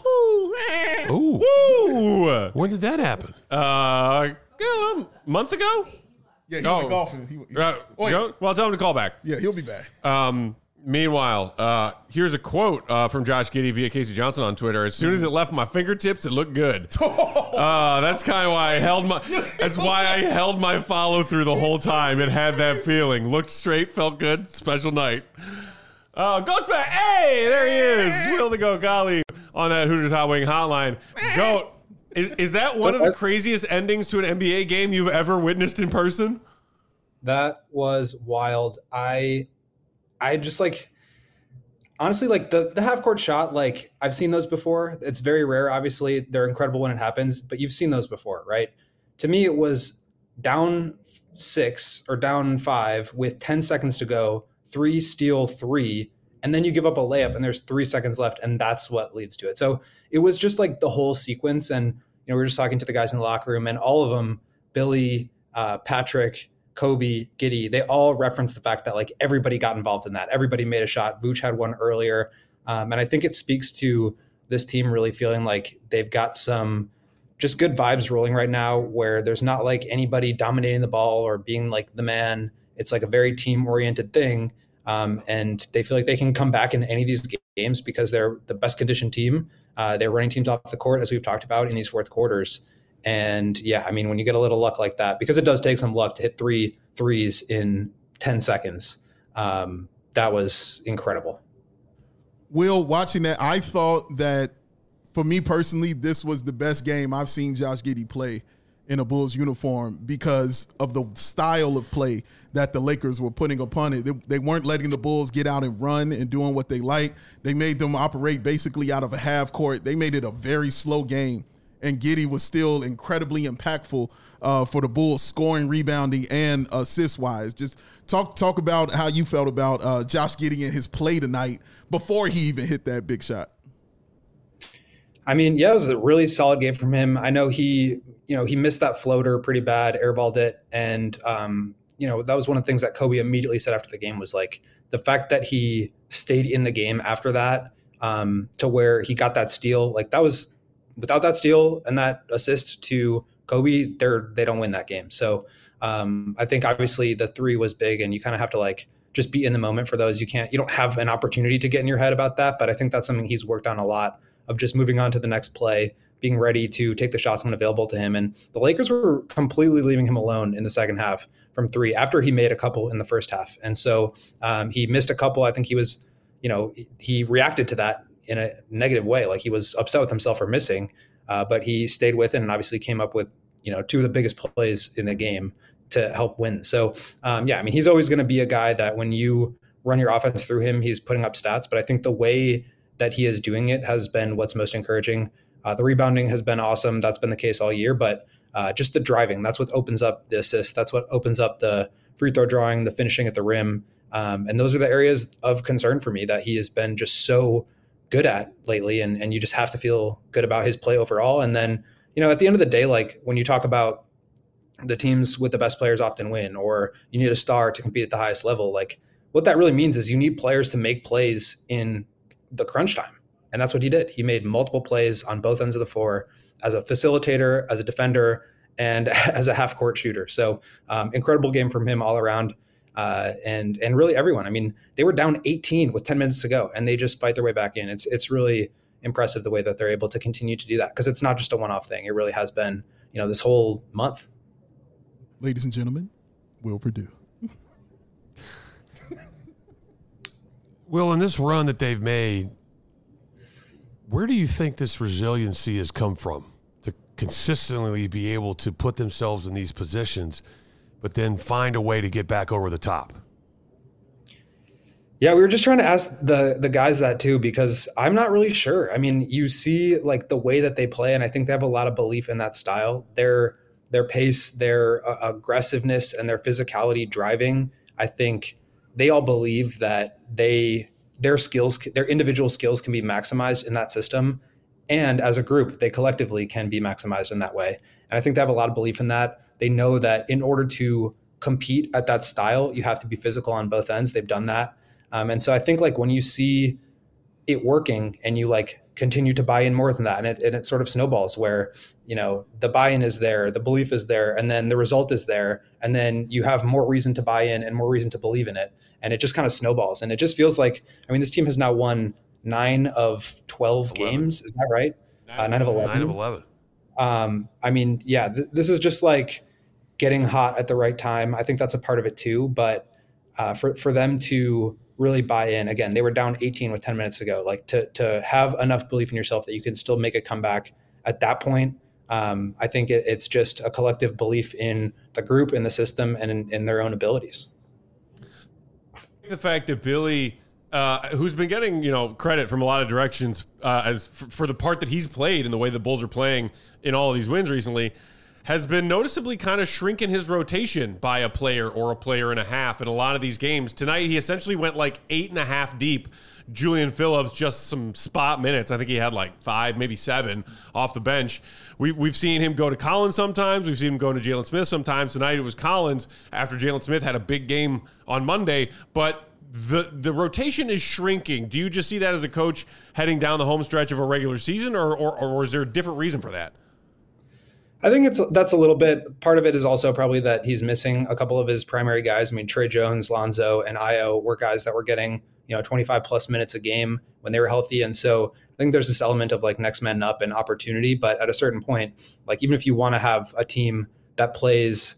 Ooh. When did that happen? A month ago? Yeah, he went golfing. Well, tell him to call back. Yeah, he'll be back. Meanwhile, here's a quote from Josh Giddey via Casey Johnson on Twitter. As soon as it left my fingertips, it looked good. That's kind of why I held my. That's why I held my follow through the whole time. It had that feeling. Looked straight, felt good. Special night. Goat's back. Hey, there he is. Will the Goat Golly on that Hooters Hot Wing Hotline. Goat, is that one of the craziest endings to an NBA game you've ever witnessed in person? That was wild. I just honestly, the half court shot, I've seen those before. It's very rare. Obviously they're incredible when it happens, but you've seen those before, right? To me, it was down 6 or down 5 with 10 seconds to go, 3 steal 3, and then you give up a layup and there's 3 seconds left, and that's what leads to it. So it was just the whole sequence. And, we were just talking to the guys in the locker room, and all of them, Billy, Patrick, Kobe, Giddey, they all referenced the fact that everybody got involved in that. Everybody made a shot. Vooch had one earlier. And I think it speaks to this team really feeling like they've got some just good vibes rolling right now, where there's not anybody dominating the ball or being the man. It's a very team oriented thing. And they feel like they can come back in any of these games because they're the best conditioned team. They're running teams off the court, as we've talked about in these fourth quarters. And yeah, I mean, when you get a little luck like that, because it does take some luck to hit 3 threes in 10 seconds, that was incredible. Will, watching that, I thought that, for me personally, this was the best game I've seen Josh Giddey play in a Bulls uniform because of the style of play that the Lakers were putting upon it. They weren't letting the Bulls get out and run and doing what they like. They made them operate basically out of a half court. They made it a very slow game, and Giddey was still incredibly impactful for the Bulls, scoring, rebounding, and assists-wise. Just talk about how you felt about Josh Giddey and his play tonight before he even hit that big shot. I mean, yeah, it was a really solid game from him. I know he missed that floater pretty bad, airballed it. And, that was one of the things that Kobe immediately said after the game was like the fact that he stayed in the game after that to where he got that steal. Like that was without that steal and that assist to Kobe, they don't win that game. So I think obviously the 3 was big and you kind of have to like just be in the moment for those. You don't have an opportunity to get in your head about that. But I think that's something he's worked on a lot, of just moving on to the next play, being ready to take the shots when available to him. And the Lakers were completely leaving him alone in the second half from 3 after he made a couple in the first half. And so he missed a couple. I think he was, he reacted to that in a negative way. Like he was upset with himself for missing, but he stayed with it and obviously came up with, 2 of the biggest plays in the game to help win. So he's always going to be a guy that when you run your offense through him, he's putting up stats. But I think the way that he is doing it has been what's most encouraging. The rebounding has been awesome. That's been the case all year, but just the driving, that's what opens up the assist. That's what opens up the free throw drawing, the finishing at the rim. And those are the areas of concern for me that he has been just so good at lately. And you just have to feel good about his play overall. And then, at the end of the day, like when you talk about the teams with the best players often win, or you need a star to compete at the highest level, like what that really means is you need players to make plays in the crunch time. And that's what he did. He made multiple plays on both ends of the floor as a facilitator, as a defender, and as a half court shooter. So incredible game from him all around. And really everyone. I mean, they were down 18 with 10 minutes to go and they just fight their way back in. It's really impressive the way that they're able to continue to do that, because it's not just a one-off thing. It really has been, this whole month. Ladies and gentlemen, Will Perdue. Will, in this run that they've made, where do you think this resiliency has come from to consistently be able to put themselves in these positions, but then find a way to get back over the top? Yeah, we were just trying to ask the guys that too, because I'm not really sure. I mean, you see like the way that they play, and I think they have a lot of belief in that style. Their pace, their aggressiveness, and their physicality driving, I think they all believe that their skills, their individual skills can be maximized in that system. And as a group, they collectively can be maximized in that way. And I think they have a lot of belief in that. They know that in order to compete at that style, you have to be physical on both ends. They've done that. And so I think like when you see it working and you like continue to buy in more than that, and it sort of snowballs where, the buy-in is there, the belief is there, and then the result is there. And then you have more reason to buy in and more reason to believe in it. And it just kind of snowballs. And it just feels like, this team has now won 9 of 12 games. Is that right? 9 of 11. 9 of 11. This is just like getting hot at the right time. I think that's a part of it too. But for them to really buy in, again, they were down 18 with 10 minutes to go. Like to have enough belief in yourself that you can still make a comeback at that point. I think it's just a collective belief in the group, in the system, and in their own abilities. The fact that Billy, who's been getting credit from a lot of directions as for the part that he's played and the way the Bulls are playing in all of these wins recently, has been noticeably kind of shrinking his rotation by a player or a player and a half in a lot of these games. Tonight, he essentially went like 8.5 deep. Julian Phillips, just some spot minutes. I think he had like 5, maybe 7 off the bench. We've seen him go to Collins sometimes. We've seen him go to Jalen Smith sometimes. Tonight, it was Collins after Jalen Smith had a big game on Monday. But the rotation is shrinking. Do you just see that as a coach heading down the home stretch of a regular season, or is there a different reason for that? I think that's a little bit. Part of it is also probably that he's missing a couple of his primary guys. Trey Jones, Lonzo, and Ayo were guys that were getting 25 plus minutes a game when they were healthy, and so I think there's this element of like next man up and opportunity, but at a certain point, like even if you want to have a team that plays,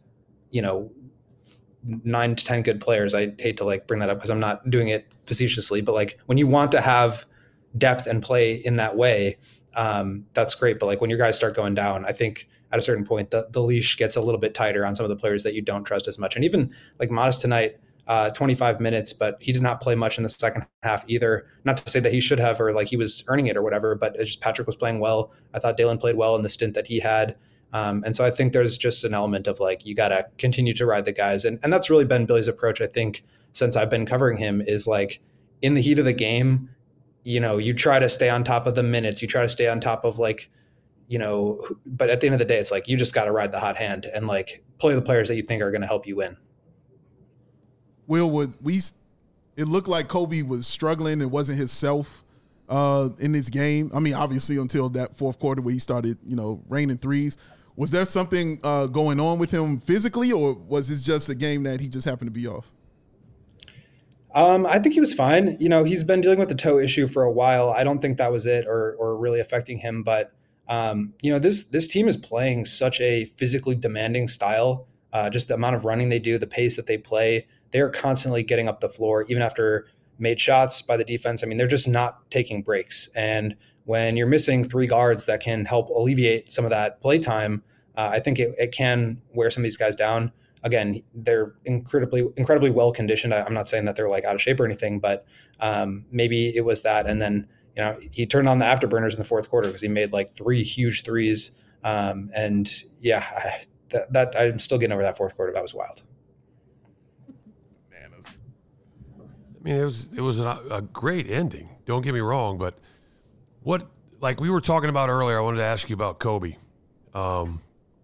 9 to 10 good players, I hate to like bring that up because I'm not doing it facetiously, but like when you want to have depth and play in that way, that's great. But like when your guys start going down, I think at a certain point, the leash gets a little bit tighter on some of the players that you don't trust as much. And even like Modest tonight, 25 minutes, but he did not play much in the second half either. Not to say that he should have, or like he was earning it or whatever, but it's just Patrick was playing well. I thought Dalen played well in the stint that he had. And so I think there's just an element of like, you got to continue to ride the guys. And that's really been Billy's approach, I think, since I've been covering him, is like in the heat of the game, you try to stay on top of the minutes, you try to stay on top of like, but at the end of the day, it's like, you just got to ride the hot hand and like play the players that you think are going to help you win. Will, it looked like Kobe was struggling and wasn't himself in this game. I mean, obviously until that fourth quarter where he started, raining threes. Was there something going on with him physically, or was this just a game that he just happened to be off? I think he was fine. He's been dealing with the toe issue for a while. I don't think that was it or really affecting him. But, this team is playing such a physically demanding style. Just the amount of running they do, the pace that they play, they're constantly getting up the floor, even after made shots by the defense. I mean, they're just not taking breaks. And when you're missing 3 guards that can help alleviate some of that play time, I think it can wear some of these guys down. Again, they're incredibly well conditioned. I'm not saying that they're like out of shape or anything, but maybe it was that. And then, he turned on the afterburners in the fourth quarter because he made like 3 huge threes. And yeah, that I'm still getting over that fourth quarter. That was wild. I mean, it was a great ending. Don't get me wrong, but what, like we were talking about earlier, I wanted to ask you about Kobe. And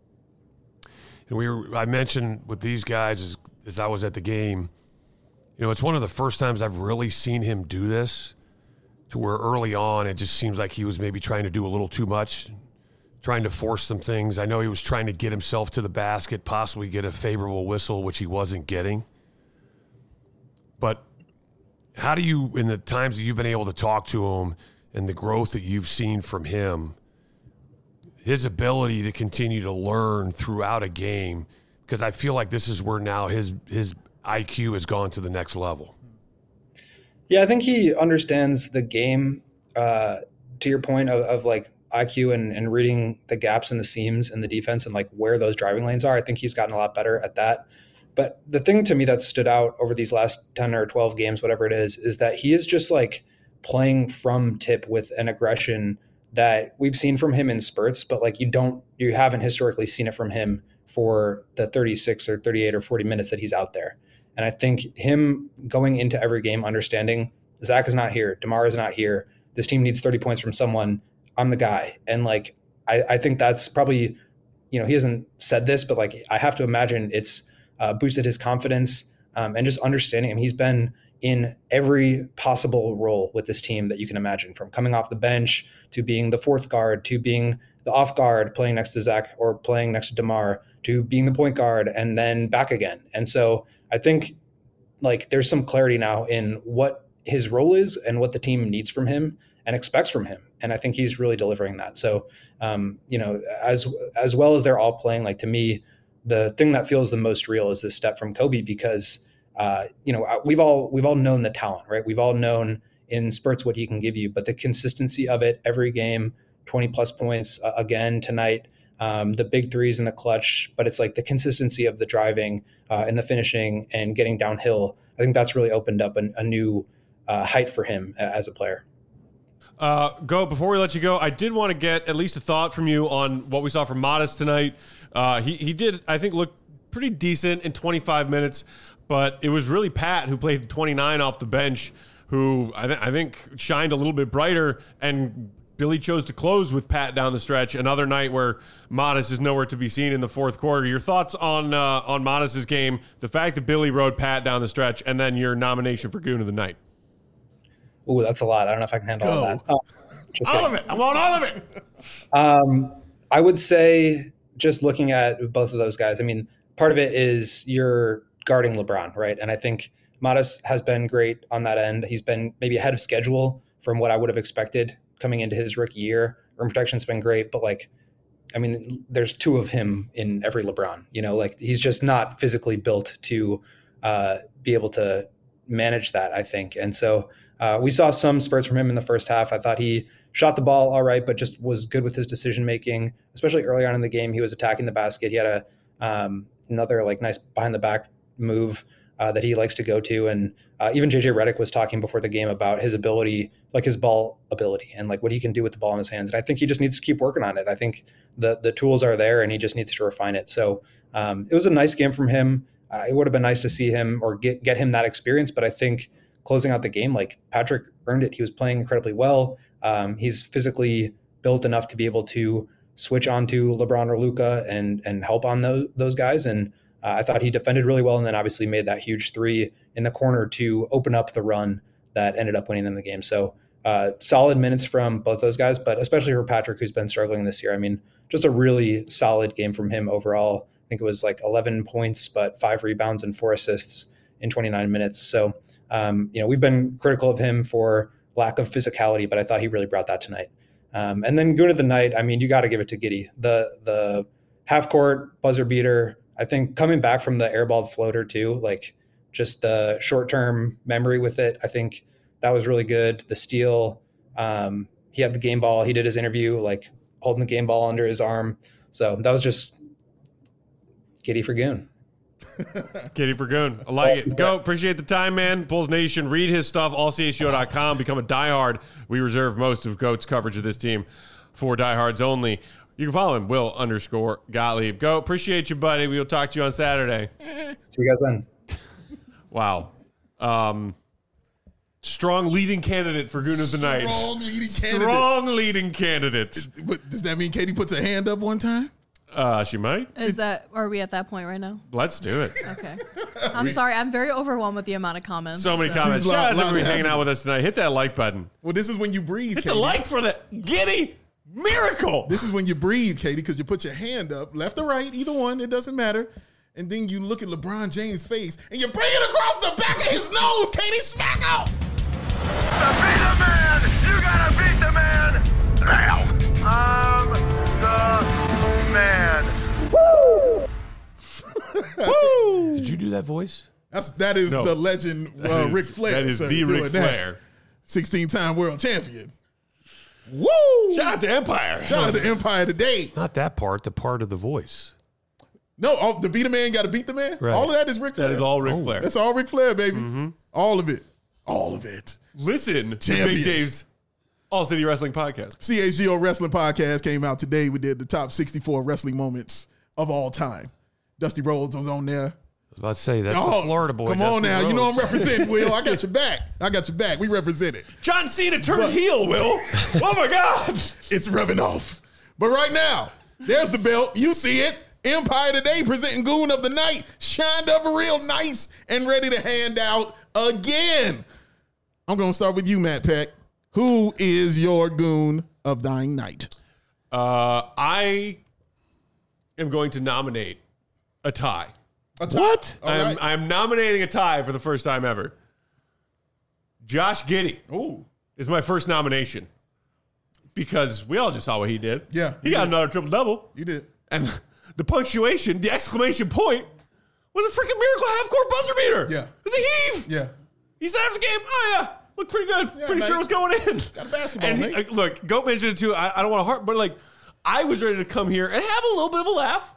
I mentioned with these guys as I was at the game, it's one of the first times I've really seen him do this, to where early on it just seems like he was maybe trying to do a little too much, trying to force some things. I know he was trying to get himself to the basket, possibly get a favorable whistle, which he wasn't getting. But how do you, in the times that you've been able to talk to him and the growth that you've seen from him, his ability to continue to learn throughout a game, because I feel like this is where now his IQ has gone to the next level. Yeah, I think he understands the game, to your point of like IQ and reading the gaps and the seams in the defense and like where those driving lanes are. I think he's gotten a lot better at that. But the thing to me that stood out over these last 10 or 12 games, whatever it is that he is just like playing from tip with an aggression that we've seen from him in spurts, but like you haven't historically seen it from him for the 36 or 38 or 40 minutes that he's out there. And I think him going into every game, understanding Zach is not here, DeMar is not here, this team needs 30 points from someone, I'm the guy. And like, I think that's probably, he hasn't said this, but like, I have to imagine it's boosted his confidence and just understanding him. He's been in every possible role with this team that you can imagine, from coming off the bench to being the fourth guard, to being the off guard, playing next to Zach or playing next to DeMar, to being the point guard and then back again. And so I think like there's some clarity now in what his role is and what the team needs from him and expects from him. And I think he's really delivering that. So, as well as they're all playing, like to me, the thing that feels the most real is this step from Kobe, because, we've all known the talent, right? We've all known in spurts what he can give you, but the consistency of it every game, 20 plus points again tonight, the big threes in the clutch, but it's like the consistency of the driving and the finishing and getting downhill. I think that's really opened up a new height for him as a player. Before we let you go, I did want to get at least a thought from you on what we saw from Modest tonight. He did, I think, look pretty decent in 25 minutes, but it was really Pat who played 29 off the bench, who I think shined a little bit brighter, and Billy chose to close with Pat down the stretch. Another night where Modest is nowhere to be seen in the fourth quarter. Your thoughts on Modest's game, the fact that Billy rode Pat down the stretch, and then your nomination for Goon of the Night. Ooh, that's a lot. I don't know if I can handle all that. All of it. I want all of it. I would say, just looking at both of those guys, I mean, part of it is you're guarding LeBron, right? And I think Modest has been great on that end. He's been maybe ahead of schedule from what I would have expected coming into his rookie year. Rim protection's been great, but like, I mean, there's 2 of him in every LeBron, you know, like he's just not physically built to be able to manage that, I think. And so we saw some spurts from him in the first half. I thought he shot the ball all right, but just was good with his decision making, especially early on in the game. He was attacking the basket. He had another like nice behind the back move that he likes to go to. And even JJ Redick was talking before the game about his ability, like his ball ability and like what he can do with the ball in his hands. And I think he just needs to keep working on it. I think the tools are there and he just needs to refine it. So it was a nice game from him. It would have been nice to see him or get him that experience. But I think closing out the game, like Patrick earned it. He was playing incredibly well. He's physically built enough to be able to switch onto LeBron or Luka and help on those guys. And I thought he defended really well and then obviously made that huge 3 in the corner to open up the run that ended up winning them the game. So solid minutes from both those guys, but especially for Patrick, who's been struggling this year. I mean, just a really solid game from him overall. I think it was like 11 points, but 5 rebounds and 4 assists in 29 minutes. So, we've been critical of him for lack of physicality, but I thought he really brought that tonight. And then going to the night, I mean, you got to give it to Giddey. The half court buzzer beater, I think coming back from the airballed floater too, like just the short-term memory with it. I think that was really good. The steal, he had the game ball. He did his interview, like holding the game ball under his arm. So that was just Giddey for Goon. Giddey for Goon. I like it. Go. Appreciate the time, man. Bulls Nation. Read his stuff, allchgo.com. Become a diehard. We reserve most of Goat's coverage of this team for diehards only. You can follow him, Will_Gottlieb. Go. Appreciate you, buddy. We will talk to you on Saturday. See you guys then. Wow. Strong leading candidate for Goon of the Night. Strong leading candidate. But does that mean Katie puts her hand up one time? She might. Are we at that point right now? Let's do it. Okay. I'm sorry. I'm very overwhelmed with the amount of comments. So many comments. Shout out to everybody hanging out with us tonight. Hit that like button. Well, this is when you breathe, Hit the like for the Giddey miracle. This is when you breathe, Katie, because you put your hand up, left or right, either one, it doesn't matter. And then you look at LeBron James' face, and you bring it across the back of his nose, Katie, smack out. To be the man, you gotta beat the man now. I'm the man. Woo! Woo! Did you do that voice? That is the legend, Ric Flair. That is the Ric Flair. 16-time world champion. Woo! Shout out to Empire. Shout out to Empire today. Not that part, the part of the voice. No, the beat a man got to beat the man. Right. All of that is Ric Flair. That is all Ric Flair. That's all Ric Flair, baby. Mm-hmm. All of it. All of it. Listen to Big Dave's All City Wrestling Podcast. CHGO Wrestling Podcast came out today. We did the top 64 wrestling moments of all time. Dusty Rhodes was on there. I was about to say, that's the Florida boy. Come on now. Rhodes. You know I'm representing, Will. I got your back. We represent it. John Cena turned heel, Will. Oh, my God. It's rubbing off. But right now, there's the belt. You see it. Empire today presenting Goon of the Night. Shined up real nice and ready to hand out again. I'm going to start with you, Matt Peck. Who is your Goon of the Night? I am going to nominate a tie. A tie? What? I'm nominating a tie for the first time ever. Josh Giddey is my first nomination because we all just saw what he did. Yeah. He got another triple-double. You did. And the punctuation, the exclamation point, was a freaking miracle half-court buzzer beater. Yeah. It was a heave. Yeah. He said after the game, oh, yeah, looked pretty good. Yeah, pretty sure it was going in. Got a basketball, and look, Goat mentioned it too. I don't want to harp, but like, I was ready to come here and have a little bit of a laugh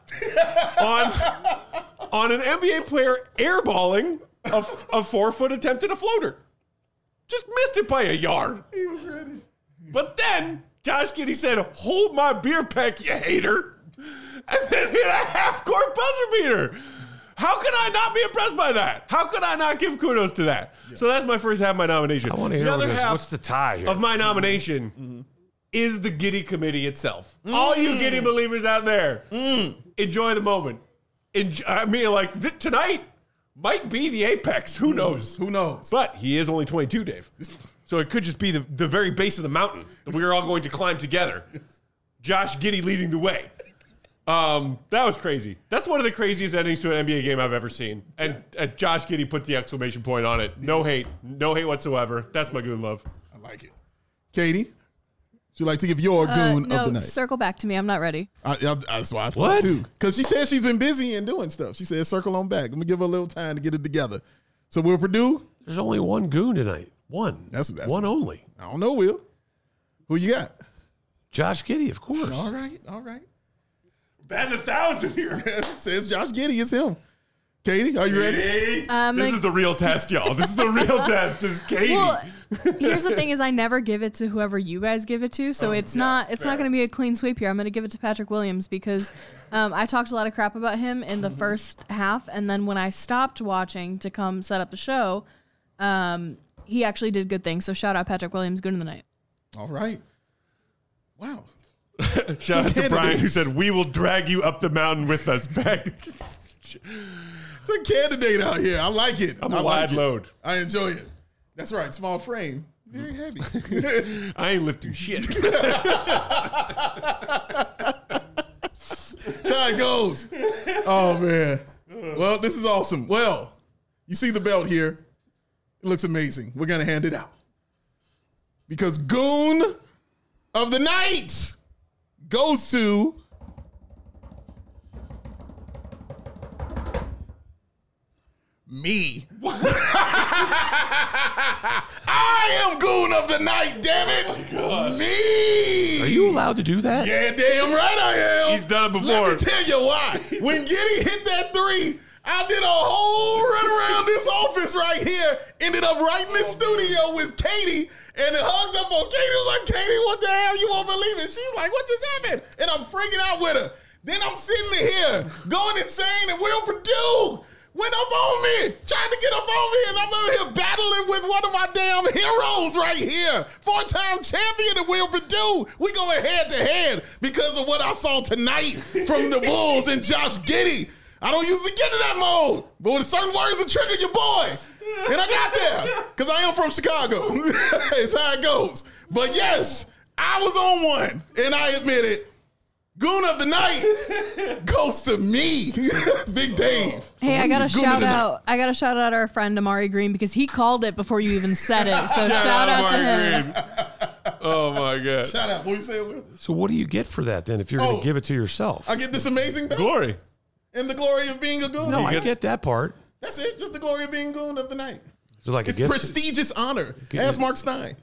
on an NBA player airballing a 4-foot attempt at a floater. Just missed it by a yard. He was ready. But then Josh Giddey said, hold my beer peck, you hater. And then hit a half-court buzzer beater. How can I not be impressed by that? How could I not give kudos to that? Yeah. So that's my first half of my nomination. I want to hear the other half what's the tie here? Of my nomination is the Giddey Committee itself. All you Giddey believers out there, enjoy the moment. Tonight might be the apex. Who knows? Who knows? But he is only 22, Dave. So it could just be the very base of the mountain that we are all going to climb together. Josh Giddey leading the way. That was crazy. That's one of the craziest endings to an NBA game I've ever seen. And Josh Giddey put the exclamation point on it. No hate whatsoever. That's my Goon love. I like it. Katie? She'd like to give your goon of the night. Circle back to me. I'm not ready. That's why I thought too. Because she said she's been busy and doing stuff. She said circle on back. I'm gonna give her a little time to get it together. So Will Purdue. There's only one goon tonight. One. That's one only. I don't know, Will. Who you got? Josh Giddey, of course. All right. Batting 1,000 here. Says Josh Giddey. It's him. Katie, are you ready? This is the real test, y'all. This is the real test. Is Katie. Well, here's the thing: is I never give it to whoever you guys give it to, so it's not going to be a clean sweep here. I'm going to give it to Patrick Williams because I talked a lot of crap about him in the first half, and then when I stopped watching to come set up the show, he actually did good things. So shout out Patrick Williams, good in the night. All right. Wow. Shout out to Brian who said, "We will drag you up the mountain with us." Back. It's a candidate out here. I like it. I'm a wide load. I enjoy it. That's right. Small frame. Very heavy. I ain't lifting shit. Tie goes. Oh, man. Well, this is awesome. Well, you see the belt here. It looks amazing. We're going to hand it out. Because Goon of the Night goes to me. I am Goon of the Night, damn it. Oh me. Are you allowed to do that? Yeah, damn right I am. He's done it before. Let me tell you why. When Giddey hit that 3, I did a whole run around this office right here. Ended up right in the studio with Katie and hugged up on Katie. Was like, Katie, what the hell? You won't believe it. She's like, what just happened? And I'm freaking out with her. Then I'm sitting here going insane, and Will Purdue went up on me, trying to get up on me, and I'm over here battling with one of my damn heroes right here. 4-time champion of Will Purdue. We going head to head because of what I saw tonight from the Bulls and Josh Giddey. I don't usually get to that mode, but with certain words that trigger your boy. And I got there because I am from Chicago. It's how it goes. But yes, I was on one, and I admit it. Goon of the Night goes to me, Big Dave. Hey, I gotta shout out our friend Amari Green because he called it before you even said it. So shout out to him. Oh my God! Shout out. What you say, Will? So what do you get for that then? If you're going to give it to yourself, I get this amazing belt. Glory and the glory of being a goon. No, I get that part. That's it. Just the glory of being Goon of the Night. So like it's prestigious honor. Ask Mark Stein.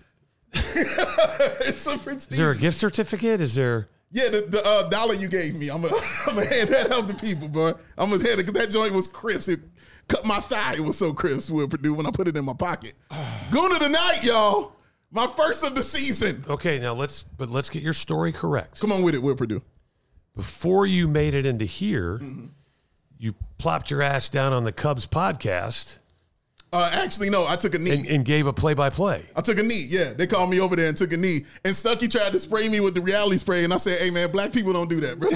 It's a prestigious. Is there a gift certificate? Is there? Yeah, the dollar you gave me, I'm gonna hand that out to people, bro. I'm gonna hand it because that joint was crisp. It cut my thigh. It was so crisp, Will Purdue, when I put it in my pocket. Goon of the Night, y'all. My first of the season. Okay, now let's get your story correct. Come on with it, Will Purdue. Before you made it into here, you plopped your ass down on the Cubs podcast. Actually, no, I took a knee. And gave a play-by-play. I took a knee, yeah. They called me over there and took a knee. And Stuckey tried to spray me with the reality spray, and I said, hey, man, black people don't do that, bro.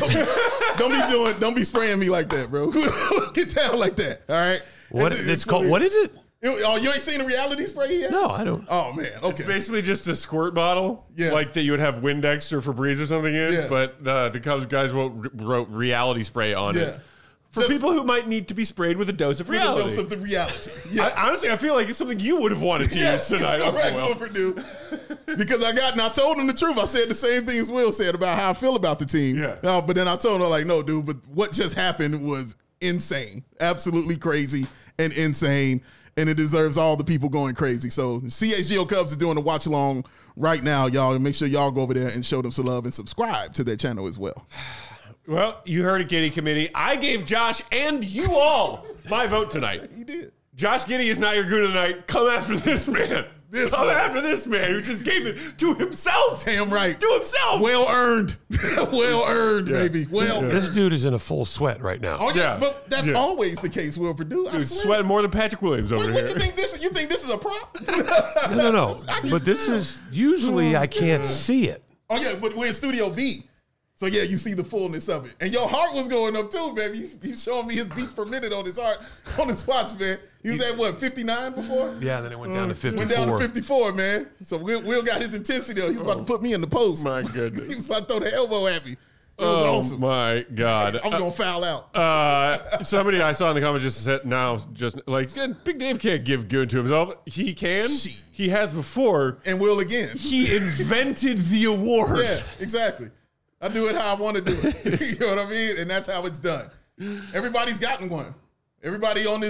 Don't be spraying me like that, bro. Get down like that, all right? What is it? Oh, you ain't seen the reality spray yet? No, I don't. Oh, man, okay. It's basically just a squirt bottle, yeah, like that you would have Windex or Febreze or something in, yeah, but the Cubs guys wrote reality spray on it. For people who might need to be sprayed with a dose of reality. With a dose of the reality. Yes. Honestly, I feel like it's something you would have wanted to use tonight. Purdue. Because I told him the truth. I said the same things Will said about how I feel about the team. Yeah. But then I told him, like, no, dude, but what just happened was insane. Absolutely crazy and insane. And it deserves all the people going crazy. So CHGO Cubs are doing a watch along right now, y'all. And make sure y'all go over there and show them some love and subscribe to their channel as well. Well, you heard it, Giddey Committee. I gave Josh and you all my vote tonight. He did. Josh Giddey is not your goon of the night. Come after this man. Come after this man who just gave it to himself. Damn right. To himself. Well earned. Well earned, baby. Well earned. This dude is in a full sweat right now. Oh, yeah. But that's always the case, Will Purdue. Dude, sweating more than Patrick Williams over here. What you think this? You think this is a prop? No. But this is usually I can't see it. Oh yeah, but we're in Studio B. So, yeah, you see the fullness of it. And your heart was going up, too, baby. He's showing me his beats per minute on his heart, on his watch, man. He was at, 59 before? Yeah, then it went down to 54. Went down to 54, man. So, Will got his intensity, though. He's about to put me in the post. My goodness. He's about to throw the elbow at me. awesome. My God. I was going to foul out. Somebody I saw in the comments just said now, just like, Big Dave can't give good to himself. He can. He has before. And will again. He invented the award. Yeah, exactly. I do it how I want to do it. You know what I mean? And that's how it's done. Everybody's gotten one. Everybody on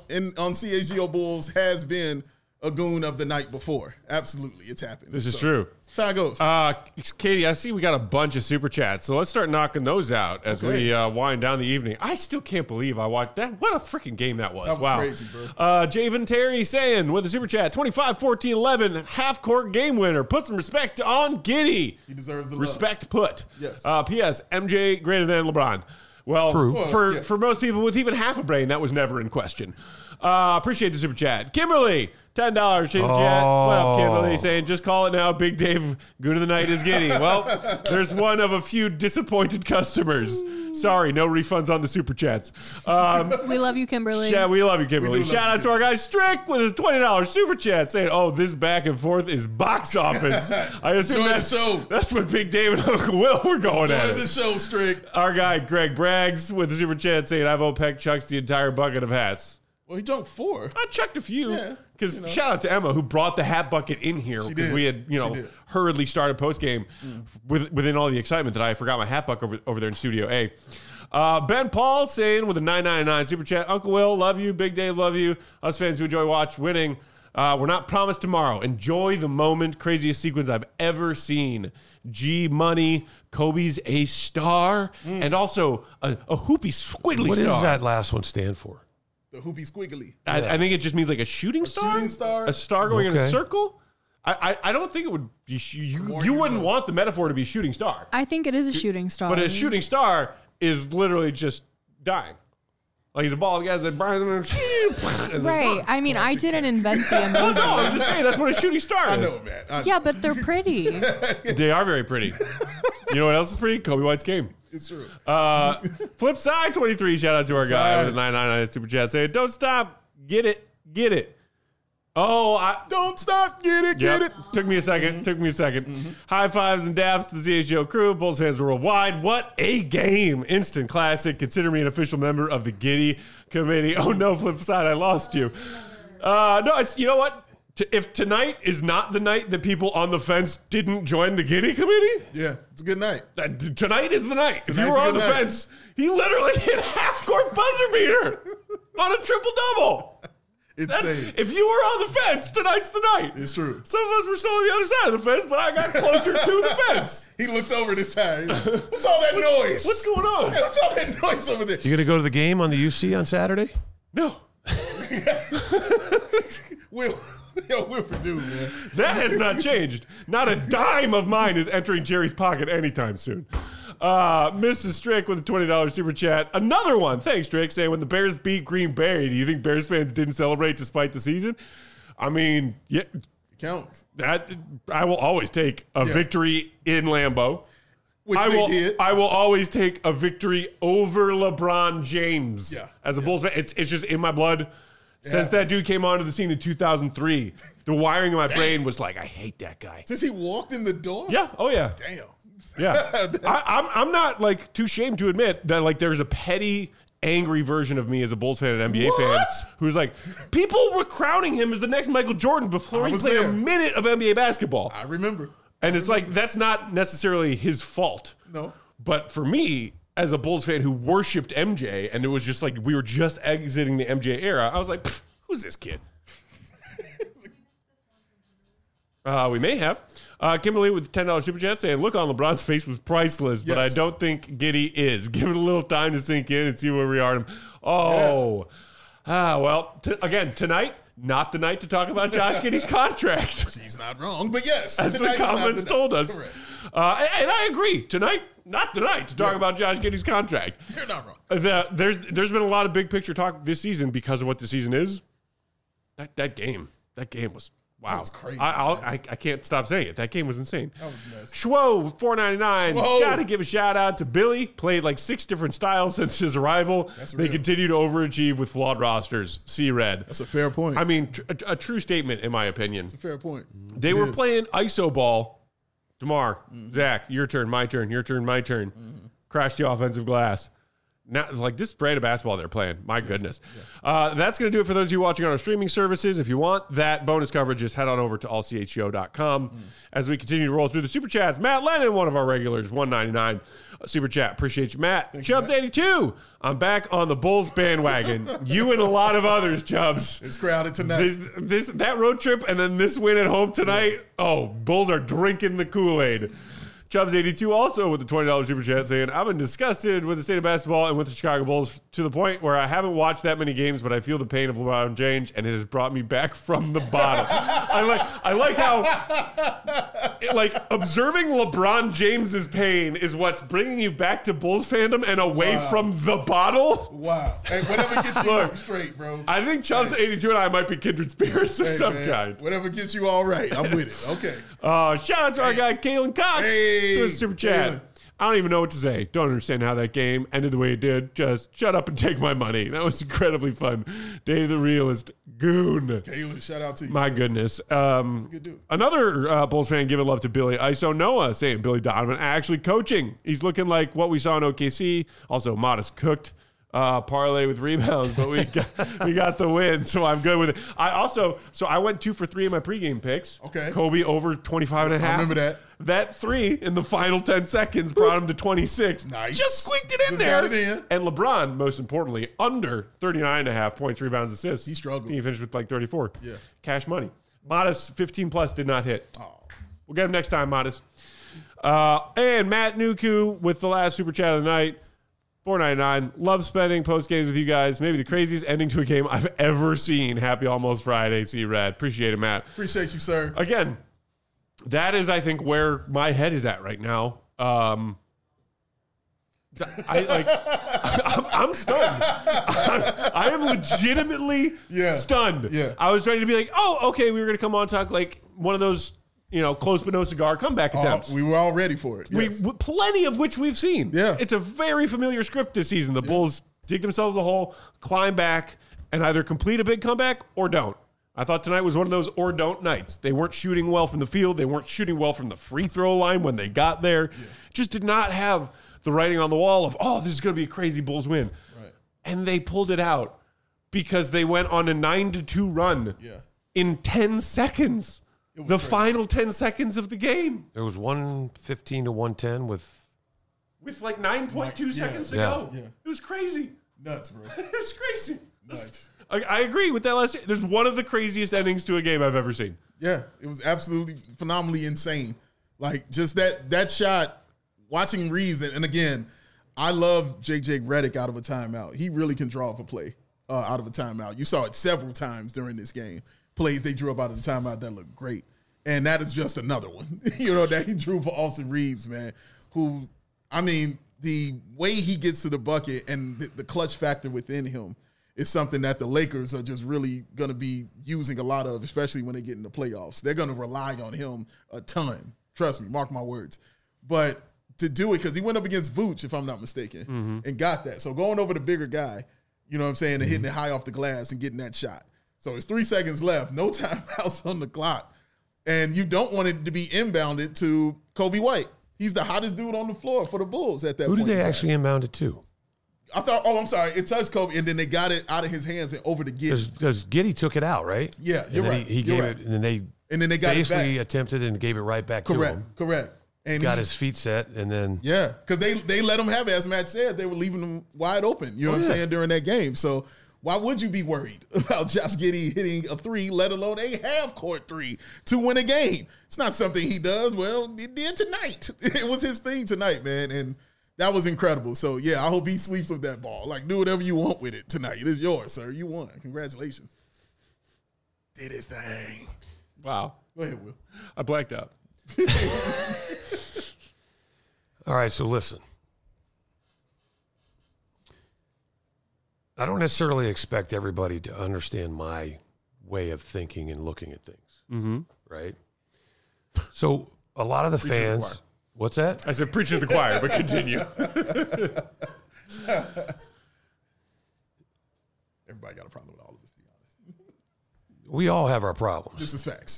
CHGO Bulls has been a goon of the night before. Absolutely. It's happened. This is true. That's how it goes. Katie, I see we got a bunch of super chats, so let's start knocking those out as we wind down the evening. I still can't believe I watched that. What a freaking game that was. That was wow. crazy, bro. Javen Terry saying with a super chat, 25-14-11, half-court game winner. Put some respect on Giddey. He deserves the respect put. Yes. P.S. MJ greater than LeBron. Well, True. For most people with even half a brain, that was never in question. Appreciate the super chat. Kimberly, $10 super chat. Well, Kimberly saying, just call it now. Big Dave, goon of the night is Giddey. Well, there's one of a few disappointed customers. Sorry, no refunds on the super chats. We love you, Kimberly. Yeah, we love you, Kimberly. Shout out to our guy Strick with his $20 super chat saying, oh, this back and forth is box office. I assume that's what Big Dave and Uncle Will were going at. Enjoy the show, Strick. Our guy Greg Braggs with the super chat saying, I've OPEC chucks the entire bucket of hats. Well, he dunked 4. I chucked a few because Yeah, shout out to Emma who brought the hat bucket in here because we had hurriedly started post game within all the excitement that I forgot my hat bucket over there in Studio A. Ben Paul saying with a $9.99 super chat, Uncle Will, love you. Big Dave, love you. Us fans who enjoy watch winning. We're not promised tomorrow. Enjoy the moment. Craziest sequence I've ever seen. G Money, Kobe's a star, and also a hoopy squiggly What star. does that last one stand for? The hoopy squiggly. I think it just means like a shooting star. Shooting star. A star going in a Okay. circle. I don't think it would be. You wouldn't want the metaphor to be shooting star. I think it is a shooting star. But a shooting star is literally just dying. Like he's a ball. The guy's like, Right. I mean, I didn't invent the emoji. No, I'm just saying that's what a shooting star is. I know, man. Yeah, but they're pretty. They are very pretty. You know what else is pretty? Kobe White's game. It's true. Flip side 23. Shout out to our guy with a 999 super chat saying, "Don't stop, get it, get it." Oh, Don't stop, get it, yep. get it. Took me a second. High fives and dabs to the CHGO crew, Bulls fans worldwide. What a game! Instant classic. Consider me an official member of the Giddey committee. Oh no, flip side, I lost you. No, it's you know what? If tonight is not the night that people on the fence didn't join the Giddey committee, Yeah, it's a good night. tonight is the night. If you Tonight's were a on the good night. fence, he literally hit half-court buzzer beater on a triple-double. Insane. If you were on the fence, tonight's the night. It's true. Some of us were still on the other side of the fence, but I got closer to the fence. He looked over this time. He's like, what's all that noise? What's going on? Hey, what's all that noise over there? You going to go to the game on the UC on Saturday? No. Wilford, dude, man. That has not changed. Not a dime of mine is entering Jerry's pocket anytime soon. Mr. Strick with a $20 super chat. Another one. Thanks, Strick, saying when the Bears beat Green Bay, do you think Bears fans didn't celebrate despite the season? I mean, yeah, It counts. that I will always take a victory in Lambeau. Which they did. I will always take a victory over LeBron James. Yeah. As a Bulls fan, it's just in my blood. Since that dude came onto the scene in 2003, the wiring in my brain was like, I hate that guy. Since he walked in the door? Yeah. Oh yeah. Damn. Yeah. I'm not like too ashamed to admit that like there's a petty, angry version of me as a Bulls fan and NBA fan who's like, people were crowning him as the next Michael Jordan before he played a minute of NBA basketball. I remember. And it's like, that's not necessarily his fault. No. But for me, as a Bulls fan who worshipped MJ, and it was just like, we were just exiting the MJ era, I was like, who's this kid? We may have. Kimberly with $10 super chat saying, look on LeBron's face was priceless, but I don't think Giddey is. Give it a little time to sink in and see where we are. Oh. Yeah. Well, again, tonight, not the night to talk about Josh Giddey's contract. He's not wrong, but yes. As the comments told us. Correct. And I agree. Tonight, not the night to talk about Josh Giddey's contract. You're not wrong. There's been a lot of big picture talk this season because of what the season is. That game was wow. That was crazy. I can't stop saying it. That game was insane. That was nuts. Schwo $4.99. Schwo. Got to give a shout out to Billy. Played like 6 different styles since his arrival. They real. continue to overachieve with flawed rosters. See red. That's a fair point. I mean, a true statement in my opinion. That's a fair point. They were playing ISO ball. DeMar, Zach, your turn, my turn, your turn, my turn. crashed the offensive glass. Now, like this brand of basketball they're playing, my goodness. That's going to do it for those of you watching on our streaming services. If you want that bonus coverage, just head on over to allchgo.com. As we continue to roll through the super chats, Matt Lennon, one of our regulars, $1.99 super chat. Appreciate you, Matt. Chubbs82, I'm back on the Bulls bandwagon. You and a lot of others, Chubbs. It's crowded tonight. That road trip and then this win at home tonight. Oh, Bulls are drinking the Kool-Aid. Chubbs82 also with the $20 super chat saying, I've been disgusted with the state of basketball and with the Chicago Bulls to the point where I haven't watched that many games, but I feel the pain of LeBron James, and it has brought me back from the bottom. I like how observing LeBron James's pain is what's bringing you back to Bulls fandom and away from the bottle. Wow. Hey, whatever gets you up straight, bro. I think Chubbs82 and I might be kindred spirits of some kind. Whatever gets you all right. I'm with it. Okay. Shout out to our guy, Kalen Cox. Hey. Super chat. I don't even know what to say. Don't understand how that game ended the way it did. Just shut up and take my money. That was incredibly fun. Dave the Realist, goon. Kalen, shout out to you. My goodness. Good dude. Another Bulls fan giving love to Billy. ISO Noah saying Billy Donovan actually coaching. He's looking like what we saw in OKC. Also, Modest cooked. Parlay with rebounds, but we got the win, so I'm good with it. I went 2 for 3 in my pregame picks. Okay. Kobe over 25 and a half. I remember that. That 3 in the final 10 seconds brought him to 26. Nice. Just squeaked it in Just there. got it in. And LeBron, most importantly, under 39 and a half points, rebounds, assists. He struggled. He finished with like 34. Yeah. Cash money. Modest 15 plus did not hit. Oh. We'll get him next time, Modest. And Matt Nuku with the last super chat of the night. $4.99. Love spending post games with you guys. Maybe the craziest ending to a game I've ever seen. Happy almost Friday, C-Rad. Appreciate it, Matt. Appreciate you, sir. Again, that is, I think, where my head is at right now. I'm stunned. I am legitimately stunned. Yeah. I was ready to be like, oh, okay, we were going to come on and talk like one of those, close but no cigar comeback attempts. We were all ready for it. Yes. Plenty of which we've seen. Yeah. It's a very familiar script this season. The Bulls dig themselves a hole, climb back, and either complete a big comeback or don't. I thought tonight was one of those or don't nights. They weren't shooting well from the field. They weren't shooting well from the free throw line when they got there. Yeah. Just did not have the writing on the wall of, this is going to be a crazy Bulls win. Right. And they pulled it out because they went on a 9-2 run in 10 seconds. The final 10 seconds of the game. It was 115 to 110 with like 9.2 seconds to go. Yeah. It was crazy. Nuts, bro. It was crazy. Nuts. I agree with that last. There's one of the craziest endings to a game I've ever seen. Yeah, it was absolutely phenomenally insane. Like just that shot, watching Reeves, and again, I love J.J. Redick out of a timeout. He really can draw up a play out of a timeout. You saw it several times during this game. Plays they drew up out of the timeout that looked great. And that is just another one, that he drew for Austin Reeves, man, who, the way he gets to the bucket and the clutch factor within him is something that the Lakers are just really going to be using a lot of, especially when they get in the playoffs. They're going to rely on him a ton. Trust me, mark my words. But to do it, because he went up against Vooch, if I'm not mistaken, and got that. So going over the bigger guy, and hitting it high off the glass and getting that shot. So it's 3 seconds left, no timeouts on the clock. And you don't want it to be inbounded to Kobe White. He's the hottest dude on the floor for the Bulls at that point. Who did they actually inbound it to? I thought, I'm sorry, it touched Kobe, and then they got it out of his hands and over to Giddey. Because Giddey took it out, right? Yeah, you're right. He gave it, and then they got basically it back. attempted and gave it right back to him. Correct. And got his feet set, and then because they let him have it. As Matt said, they were leaving him wide open. You know what I'm saying, during that game. So why would you be worried about Josh Giddey hitting a 3, let alone a half-court 3 to win a game? It's not something he does. Well, he did tonight. It was his thing tonight, man, and that was incredible. So, I hope he sleeps with that ball. Like, do whatever you want with it tonight. It is yours, sir. You won. Congratulations. Did his thing. Wow. Go ahead, Will. I blacked out. All right, so listen. I don't necessarily expect everybody to understand my way of thinking and looking at things, right? So a lot of the fans, what's that? I said preach to the choir, but continue. Everybody got a problem with all of this, to be honest. We all have our problems. This is facts.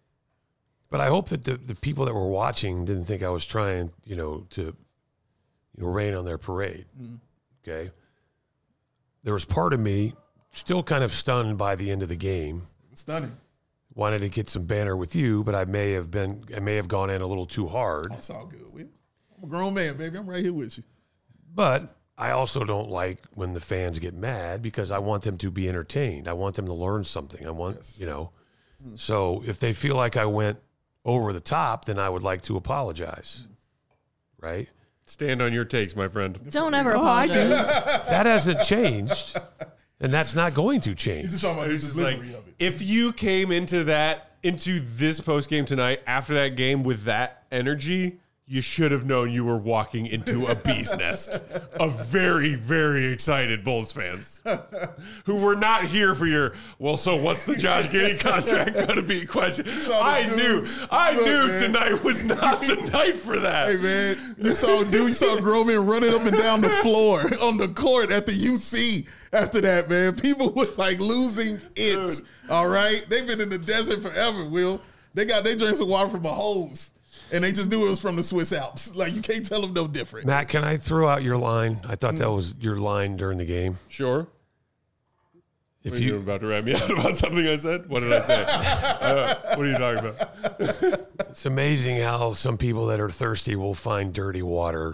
But I hope that the people that were watching didn't think I was trying, to rain on their parade. Okay. There was part of me still kind of stunned by the end of the game. Stunning. Wanted to get some banter with you, but I may have gone in a little too hard. It's all good. I'm a grown man, baby. I'm right here with you. But I also don't like when the fans get mad because I want them to be entertained. I want them to learn something. I want, So if they feel like I went over the top, then I would like to apologize. Right? Stand on your takes, my friend. Don't ever apologize. That hasn't changed, and that's not going to change. He's just talking about the It's just like, delivery of it. if you came into this post game tonight after that game with that energy, you should have known you were walking into a bee's nest of very, very excited Bulls fans who were not here for your, well, so what's the Josh Giddey contract going to be question? I knew tonight was not the night for that. Hey, man, you saw grown men running up and down the floor on the court at the UC after that, man. People were like losing it, Dude. all right? They've been in the desert forever, Will. They drank some water from a hose. And they just knew it was from the Swiss Alps. Like, you can't tell them no different. Matt, can I throw out your line? I thought that was your line during the game. Sure. If You were about to rat me out about something I said? What did I say? What are you talking about? It's amazing how some people that are thirsty will find dirty water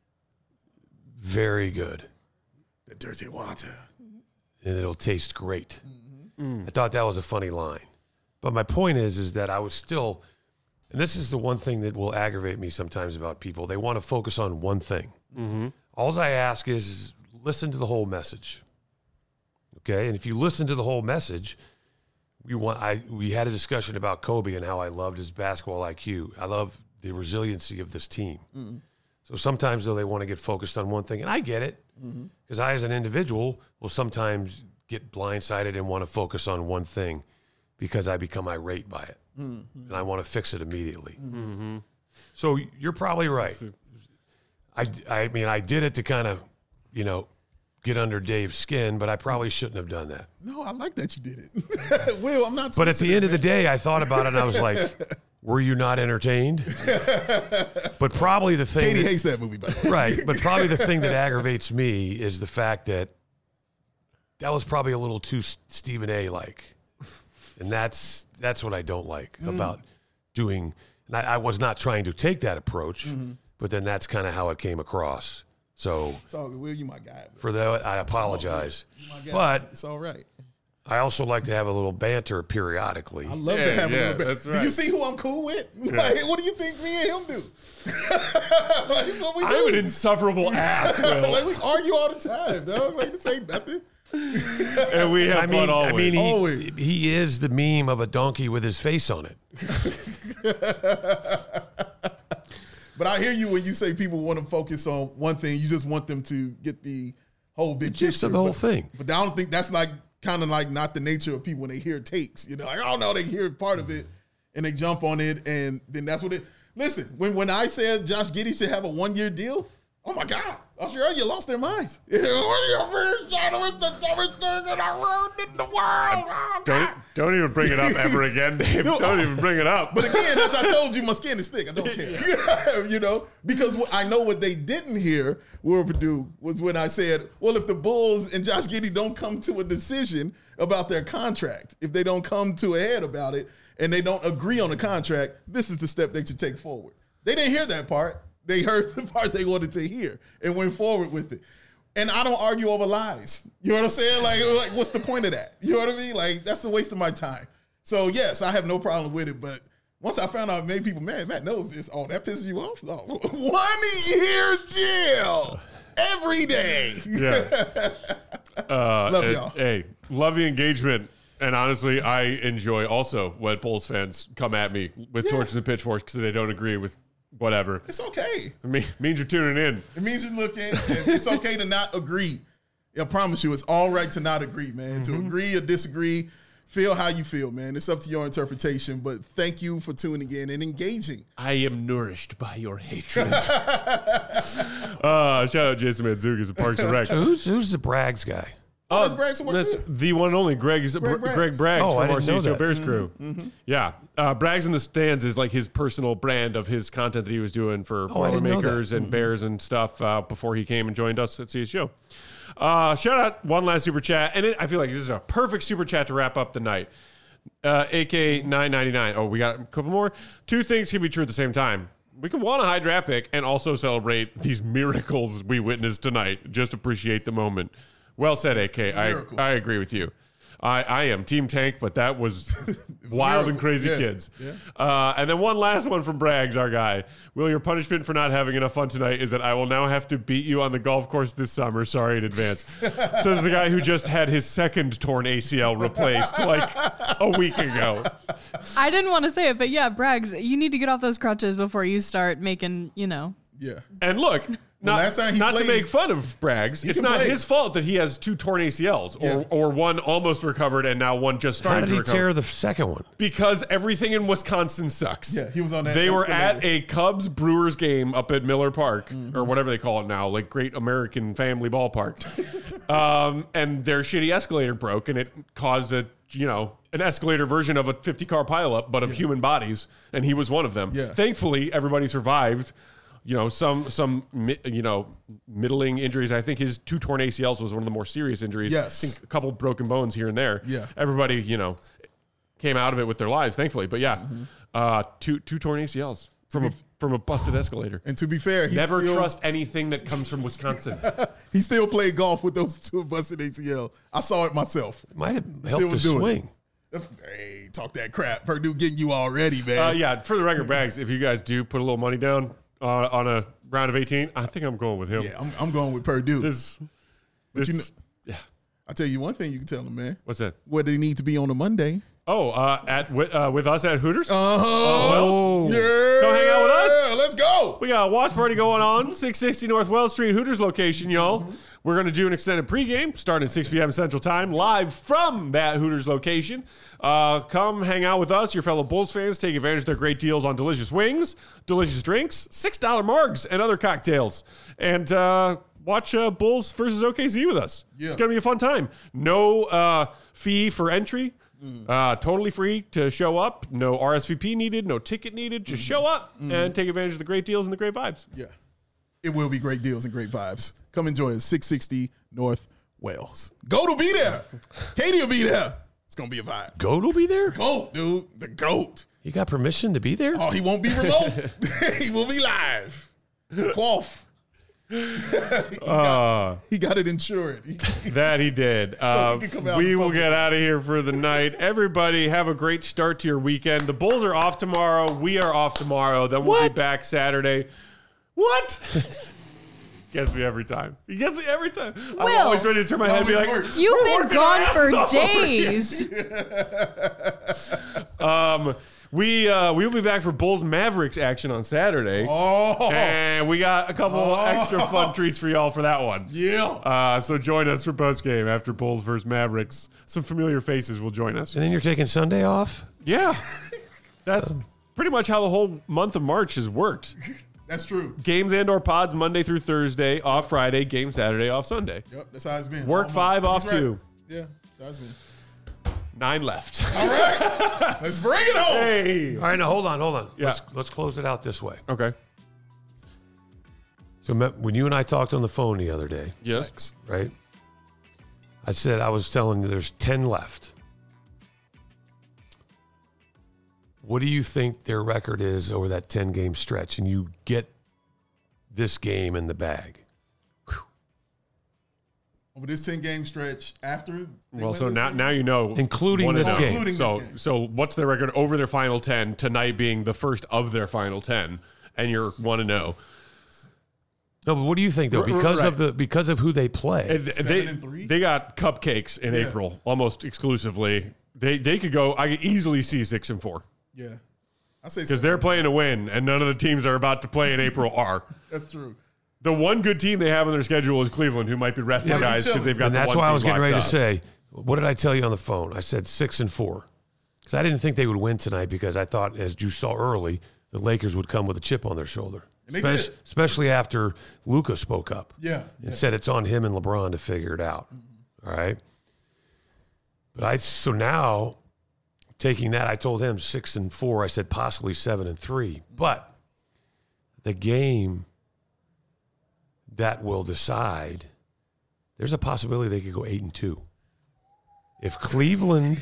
very good. The dirty water. And it'll taste great. I thought that was a funny line. But my point is that I was still, and this is the one thing that will aggravate me sometimes about people. They want to focus on one thing. All I ask is listen to the whole message. Okay? And if you listen to the whole message, we had a discussion about Kobe and how I loved his basketball IQ. I love the resiliency of this team. So sometimes, though, they want to get focused on one thing. And I get it, because I, as an individual, will sometimes get blindsided and want to focus on one thing because I become irate by it. And I want to fix it immediately. So you're probably right. I mean, I did it to kind of, get under Dave's skin, but I probably shouldn't have done that. No, I like that you did it. Will, I'm not. But at the end of the day, I thought about it and I was like, were you not entertained? But probably the thing. Katie hates that movie, by the way. Right. But probably the thing that aggravates me is the fact that was probably a little too Stephen A. like. And that's what I don't like about doing. And I was not trying to take that approach, but then that's kind of how it came across. So It's all good. Will, you my guy. for that, I apologize. You my guy. But It's all right. I also like to have a little banter periodically. I love to have a little bit. that's Do right. you see who I'm cool with? Like, what do you think me and him do? Like, it's what we do. I'm an insufferable ass, Will. Like, we argue all the time, dog. Like, this ain't nothing. And we have fun always. I mean, Always. he is the meme of a donkey with his face on it. But I hear you when you say people want to focus on one thing. You just want them to get the whole big gist picture. of the whole thing. But I don't think that's like kind of like not the nature of people when they hear takes. Like, I don't know, they hear part of it and they jump on it, and then that's what it. Listen, when I said Josh Giddey should have a 1-year deal, oh my God, Australia lost their minds. What do you mean? It's the dumbest thing in the world in the world. Oh, God. Don't even bring it up ever again, Dave. Don't even bring it up. But again, as I told you, my skin is thick. I don't care. Because I know what they didn't hear, Will Purdue, was when I said, well, if the Bulls and Josh Giddey don't come to a decision about their contract, if they don't come to a head about it and they don't agree on the contract, this is the step they should take forward. They didn't hear that part. They heard the part they wanted to hear and went forward with it. And I don't argue over lies. You know what I'm saying? Like, what's the point of that? You know what I mean? Like, that's a waste of my time. So, yes, I have no problem with it. But once I found out made people mad, Matt knows this. Oh, that pisses you off? No. 1-year deal every day. Yeah. Love y'all. Hey, love the engagement. And honestly, I enjoy also when Bulls fans come at me with torches and pitchforks because they don't agree with whatever. It's okay. It means you're tuning in. It means you're looking. And it's okay to not agree. I promise you, it's all right to not agree, man. To agree or disagree, feel how you feel, man. It's up to your interpretation. But thank you for tuning in and engaging. I am nourished by your hatred. Shout out Jason Mantzoukas at Parks and Rec. Who's the Braggs guy? Oh, that's Bragg's work That's too? the one and only Greg Braggs Oh, I from our didn't know CHO that. Bears crew. Yeah. Braggs in the Stands is like his personal brand of his content that he was doing for I didn't know Boilermakers and Bears and stuff before he came and joined us at CHO. Shout out one last super chat. And I feel like this is a perfect super chat to wrap up the night. AK 999. Oh, we got a couple more. Two things can be true at the same time. We can want a high draft pick and also celebrate these miracles we witnessed tonight. Just appreciate the moment. Well said, AK. I agree with you. I am Team Tank, but that was wild and crazy kids. Yeah. And then one last one from Braggs, our guy. Will, your punishment for not having enough fun tonight is that I will now have to beat you on the golf course this summer. Sorry in advance. Says the guy who just had his second torn ACL replaced like a week ago. I didn't want to say it, but yeah, Braggs, you need to get off those crutches before you start making, Yeah. And look, not to make fun of Braggs, it's not his fault that he has two torn ACLs or one almost recovered and now one just How started did to he recover. tear the second one? Because everything in Wisconsin sucks. Yeah, he was on that They were escalator. at a Cubs Brewers game up at Miller Park or whatever they call it now, like Great American Family Ballpark. And their shitty escalator broke and it caused an escalator version of a 50-car pileup, but of human bodies, and he was one of them. Yeah. Thankfully, everybody survived. Some middling injuries. I think his two torn ACLs was one of the more serious injuries. Yes. I think a couple broken bones here and there. Yeah. Everybody, came out of it with their lives, thankfully. But yeah, two torn ACLs from a busted escalator. And to be fair, Never trust anything that comes from Wisconsin. He still played golf with those two busted ACL. I saw it myself. Might have Still helped the was doing swing. Hey, talk that crap. Purdue getting you already, man. Yeah, for the record, Braggs, if you guys do put a little money down on a round of 18, I think I'm going with him. Yeah, I'm going with Purdue. Yeah. I'll tell you one thing you can tell them, man. What's that? Where they need to be on a Monday. Oh, with us at Hooters? Oh, yeah. Come hang out with us. Let's go. We got a watch party going on, 660 North Wells Street, Hooters location, y'all. We're going to do an extended pregame starting at 6 p.m. Central Time, live from that Hooters location. Come hang out with us, your fellow Bulls fans. Take advantage of their great deals on delicious wings, delicious drinks, $6 margs, and other cocktails. And watch Bulls versus OKC with us. Yeah. It's going to be a fun time. No fee for entry. Totally free to show up. No RSVP needed. No ticket needed. Just show up and take advantage of the great deals and the great vibes. Yeah. It will be great deals and great vibes. Come enjoy us, 660 North Wells. Goat will be there. Katie will be there. It's going to be a vibe. Goat will be there? Goat, dude. The GOAT. You got permission to be there? Oh, he won't be remote. He will be live. Quaff. He got it insured. That he did. So he can come out We in will public. get out of here for the night. Everybody have a great start to your weekend. The Bulls are off tomorrow. We are off tomorrow. Then we'll be back Saturday. What? Gets me every time. He gets me every time. I'm Will. always ready to turn my head and be like, you've "We're been working our gone for asses off over here." days. We will be back for Bulls Mavericks action on Saturday. Oh, And we got a couple extra fun treats for y'all for that one. yeah. So join us for post game after Bulls versus Mavericks. Some familiar faces will join us. And then you're taking Sunday off? Yeah. That's pretty much how the whole month of March has worked. That's true. Games and or pods Monday through Thursday, off Friday, game Saturday, off Sunday. Yep, that's how it's been. Work 5, off That's right. 2. Yeah, that's how it's been. 9 left. All right. Let's bring it home. Hey. All right, now hold on. Yeah. Let's close it out this way. Okay. So when you and I talked on the phone the other day, Yes. right? I was telling you there's 10 left. What do you think their record is over that 10-game stretch? And you get this game in the bag. Over this 10-game stretch after. Well, so now you know. Including this 1-0. game. Including So this game. so what's their record over their final 10, tonight being the first of their final 10, and you're 1-0. No, but what do you think though? Because of who they play. And 7-3? they got cupcakes in April almost exclusively. They could go. I could easily see 6-4 Yeah. I say because they're playing to win, and none of the teams are about to play in April are. That's true. The one good team they have on their schedule is Cleveland, who might be resting Yeah, guys because they've got. And the that's one why I seed was getting ready to locked up. say, what did I tell you on the phone? I said 6-4. Because I didn't think they would win tonight because I thought, as you saw early, the Lakers would come with a chip on their shoulder. And they did. Especially after Luka spoke up Yeah. and said it's on him and LeBron to figure it out. All right. But so now taking that, I told him 6-4. I said possibly 7-3. But the game that will decide, there's a possibility they could go 8-2. If Cleveland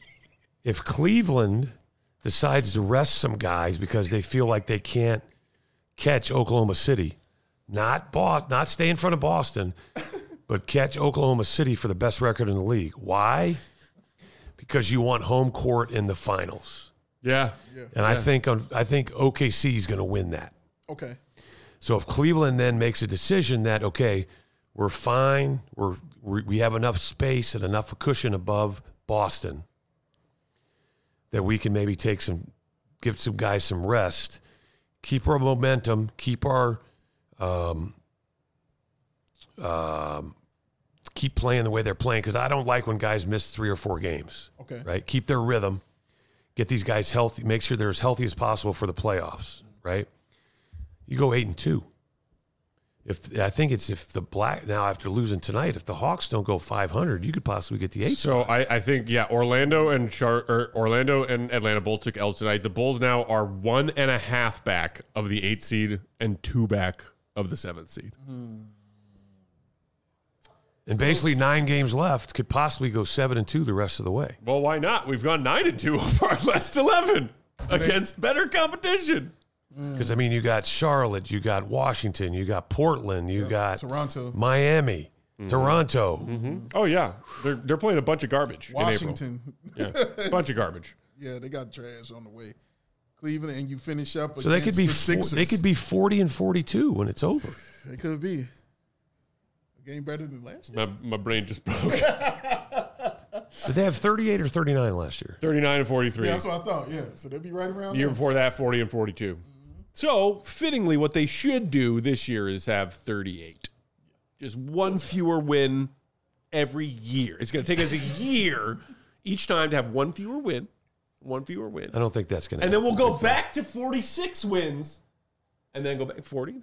decides to rest some guys because they feel like they can't catch Oklahoma City, not stay in front of Boston, but catch Oklahoma City for the best record in the league. Why? Because you want home court in the finals. Yeah. And I think OKC is going to win that. Okay. So if Cleveland then makes a decision that, okay, we're fine, we have enough space and enough cushion above Boston that we can maybe give some guys some rest, keep our momentum, keep our keep playing the way they're playing, because I don't like when guys miss 3 or 4 games. Okay. Right? Keep their rhythm, get these guys healthy, make sure they're as healthy as possible for the playoffs, right? You go 8-2. If after losing tonight, if the Hawks don't go 500, you could possibly get the 8th. So I think Orlando and Atlanta both took L's tonight. The Bulls now are 1.5 back of the 8th seed and 2 back of the 7th seed. And basically 9 games left, could possibly go 7-2 the rest of the way. Well, why not? We've gone 9-2 over our last 11 against better competition. Because, I mean, you got Charlotte, you got Washington, you got Portland, you got Toronto, Miami, Toronto. Mm-hmm. Oh, yeah. They're playing a bunch of garbage Washington. In April. Yeah, a bunch of garbage. Yeah, they got trash on the way. Cleveland, and you finish up so they could be Sixers. They could be 40-42 when it's over. They could be. A game better than last year. My brain just broke. Did they have 38 or 39 last year? 39-43. Yeah, that's what I thought. Yeah, so they'd be right around The year there. before that, 40-42. So, fittingly, what they should do this year is have 38. Just one fewer win every year. It's going to take us a year each time to have one fewer win. One fewer win. I don't think that's going to happen. And then we'll go back to 46 wins. And then go back 41,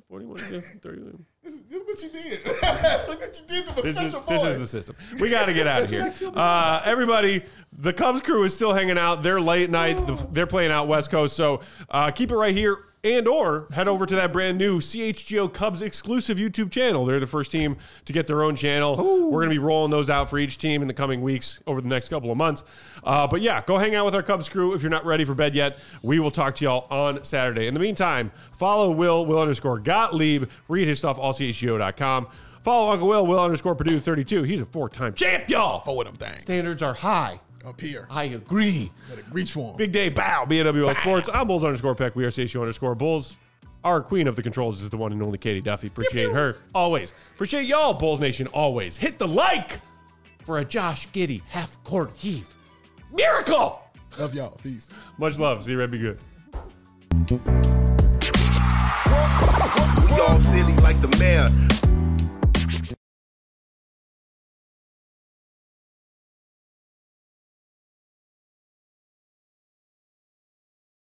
31. This is what you did. Look what you did to my special boy. This is the system. We got to get out of here. Everybody, the Cubs crew is still hanging out. They're late night. They're playing out West Coast. So keep it right here or head over to that brand new CHGO Cubs exclusive YouTube channel. They're the first team to get their own channel. Ooh. We're going to be rolling those out for each team in the coming weeks over the next couple of months. But yeah, go hang out with our Cubs crew. If you're not ready for bed yet, we will talk to y'all on Saturday. In the meantime, follow Will_Gottlieb. Read his stuff, allchgo.com. Follow Uncle Will Purdue32. He's a 4-time champ, y'all. 4 of them things. Standards are high. Up here. I agree. Better reach for him. Big day, bow. BNWL Sports. I'm Bulls_Peck. We are Station_Bulls. Our queen of the controls is the one and only Katie Duffy. Appreciate her always. Appreciate y'all, Bulls Nation, always. Hit the like for a Josh Giddey half-court heave. Miracle! Love y'all. Peace. Much love. See you, Red. Be good. We all silly like the mayor.